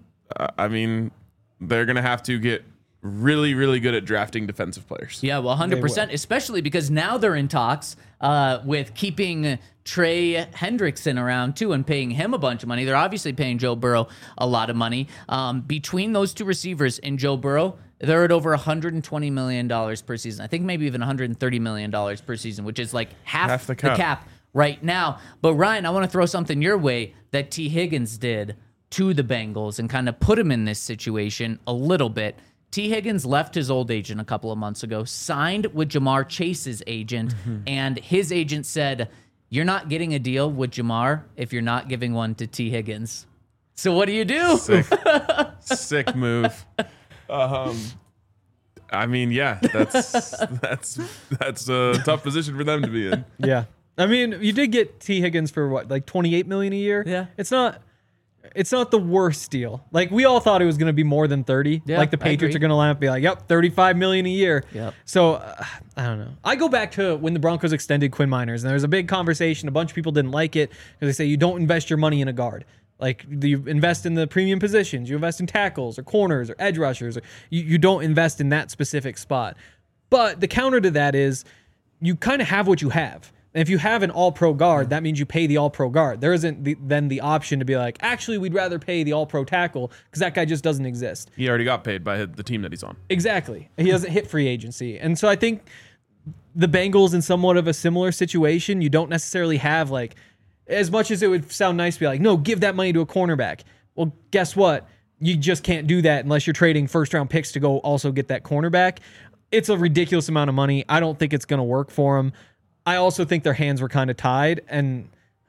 they're going to have to get really, really good at drafting defensive players. Yeah, well, 100%, especially because now they're in talks with keeping Trey Hendrickson around too and paying him a bunch of money. They're obviously paying Joe Burrow a lot of money. Between those two receivers and Joe Burrow, they're at over $120 million per season. I think maybe even $130 million per season, which is like half the cap right now. But Ryan, I want to throw something your way that T. Higgins did to the Bengals and kind of put him in this situation a little bit. T. Higgins left his old agent a couple of months ago, signed with Jamar Chase's agent, and his agent said, you're not getting a deal with Jamar if you're not giving one to T. Higgins. So what do you do? Sick move. I mean, yeah, that's a tough position for them to be in. Yeah. I mean, you did get T. Higgins for what, like $28 million a year? Yeah. It's not the worst deal. Like, we all thought it was going to be more than 30. Yeah, like the I Patriots agree. are going to line up and be like, yep, $35 million a year. Yep. So I don't know. I go back to when the Broncos extended Quinn Miners, and there was a big conversation. A bunch of people didn't like it because they say you don't invest your money in a guard. Like, you invest in the premium positions, you invest in tackles or corners or edge rushers, or you don't invest in that specific spot. But the counter to that is you kind of have what you have. And if you have an all-pro guard, that means you pay the all-pro guard. There isn't then the option to be like, actually, we'd rather pay the all-pro tackle because that guy just doesn't exist. He already got paid by the team that he's on. Exactly. He doesn't hit free agency. And so I think the Bengals in somewhat of a similar situation, you don't necessarily have, like, as much as it would sound nice to be like, no, give that money to a cornerback. Well, guess what? You just can't do that unless you're trading first-round picks to go also get that cornerback. It's a ridiculous amount of money. I don't think it's going to work for them. I also think their hands were kind of tied, and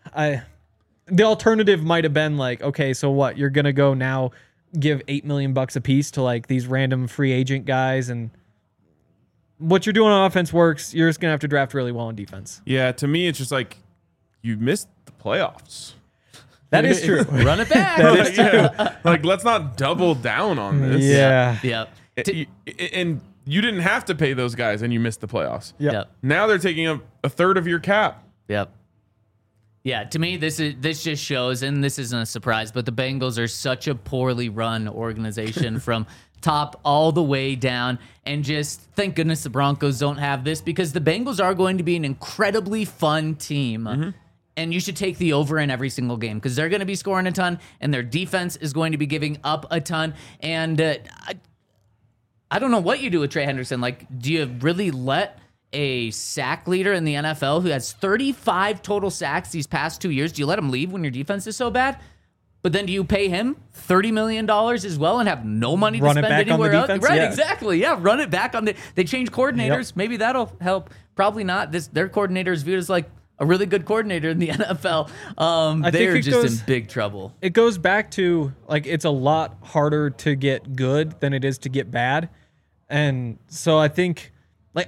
the alternative might have been like, okay, so what? You're going to go now give $8 million a piece to like these random free agent guys, and what you're doing on offense works. You're just going to have to draft really well on defense. Yeah, to me, it's just like you missed the playoffs. That is true. Run it back. Yeah. Like, let's not double down on this. Yeah. Yep. And you didn't have to pay those guys, and you missed the playoffs. Yep. Yep. Now they're taking up a third of your cap. Yep. Yeah, to me, this just shows, and this isn't a surprise, but the Bengals are such a poorly run organization from top all the way down. And just thank goodness the Broncos don't have this, because the Bengals are going to be an incredibly fun team. Mm-hmm. And you should take the over in every single game because they're going to be scoring a ton, and their defense is going to be giving up a ton. And I don't know what you do with Trey Hendrickson. Like, do you really let a sack leader in the NFL who has 35 total sacks these past 2 years, do you let him leave when your defense is so bad? But then do you pay him $30 million as well and have no money to spend anywhere else? Right, yeah. Exactly. Yeah, run it back on they change coordinators. Yep. Maybe that'll help. Probably not. Their coordinator is viewed as like a really good coordinator in the NFL. They're just in big trouble. It goes back to, like, it's a lot harder to get good than it is to get bad. And so I think, like,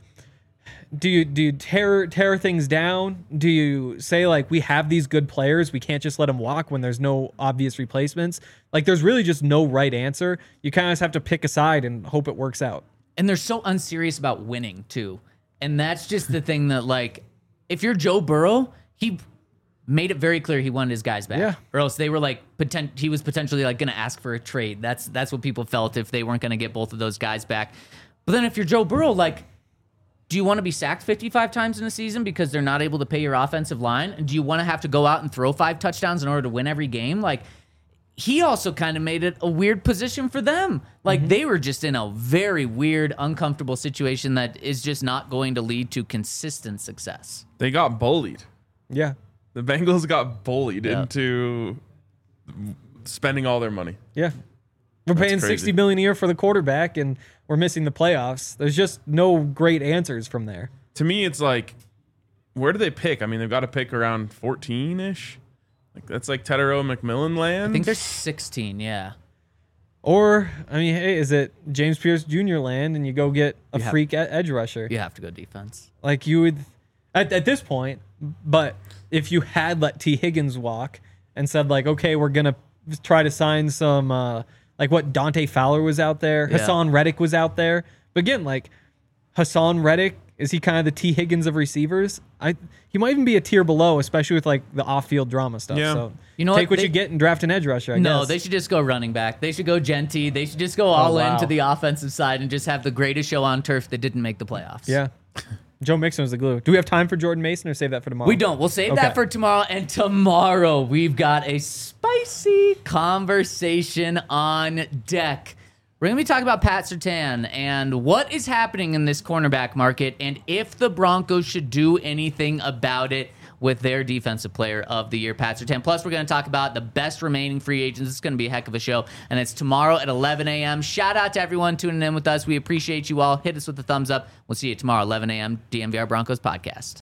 do you tear things down? Do you say, like, we have these good players, we can't just let them walk when there's no obvious replacements? Like, there's really just no right answer. You kind of just have to pick a side and hope it works out. And they're so unserious about winning, too. And that's just the thing that, like, if you're Joe Burrow, he made it very clear he wanted his guys back. Yeah. Or else they were like, he was potentially like going to ask for a trade. That's what people felt if they weren't going to get both of those guys back. But then if you're Joe Burrow, like, do you want to be sacked 55 times in a season because they're not able to pay your offensive line? And do you want to have to go out and throw 5 touchdowns in order to win every game? Like, he also kind of made it a weird position for them. Like, they were just in a very weird, uncomfortable situation that is just not going to lead to consistent success. They got bullied. Yeah. The Bengals got bullied into spending all their money. Yeah. We're paying $60 million a year for the quarterback, and we're missing the playoffs. There's just no great answers from there. To me, it's like, where do they pick? I mean, they've got to pick around 14-ish. Like, that's like Tetero McMillan land. I think there's 16, yeah. Or, I mean, hey, is it James Pierce Jr. land and you go get a freak edge rusher? You have to go defense. Like, you would, at this point, but if you had let T. Higgins walk and said, like, okay, we're going to try to sign some, like what Dante Fowler was out there, Yeah. Hassan Reddick was out there. But again, like, Hassan Reddick, is he kind of the T. Higgins of receivers? He might even be a tier below, especially with like the off-field drama stuff. Yeah. So you know take what you get and draft an edge rusher. I guess. They should just go running back. They should go Genty. They should just go all into the offensive side and just have the greatest show on turf that didn't make the playoffs. Yeah. Joe Mixon was the glue. Do we have time for Jordan Mason or save that for tomorrow? We don't. We'll save that for tomorrow. And tomorrow we've got a spicy conversation on deck. We're going to be talking about Pat Surtain and what is happening in this cornerback market and if the Broncos should do anything about it with their defensive player of the year, Pat Surtain. Plus, we're going to talk about the best remaining free agents. It's going to be a heck of a show, and it's tomorrow at 11 a.m. Shout out to everyone tuning in with us. We appreciate you all. Hit us with a thumbs up. We'll see you tomorrow, 11 a.m., DNVR Broncos podcast.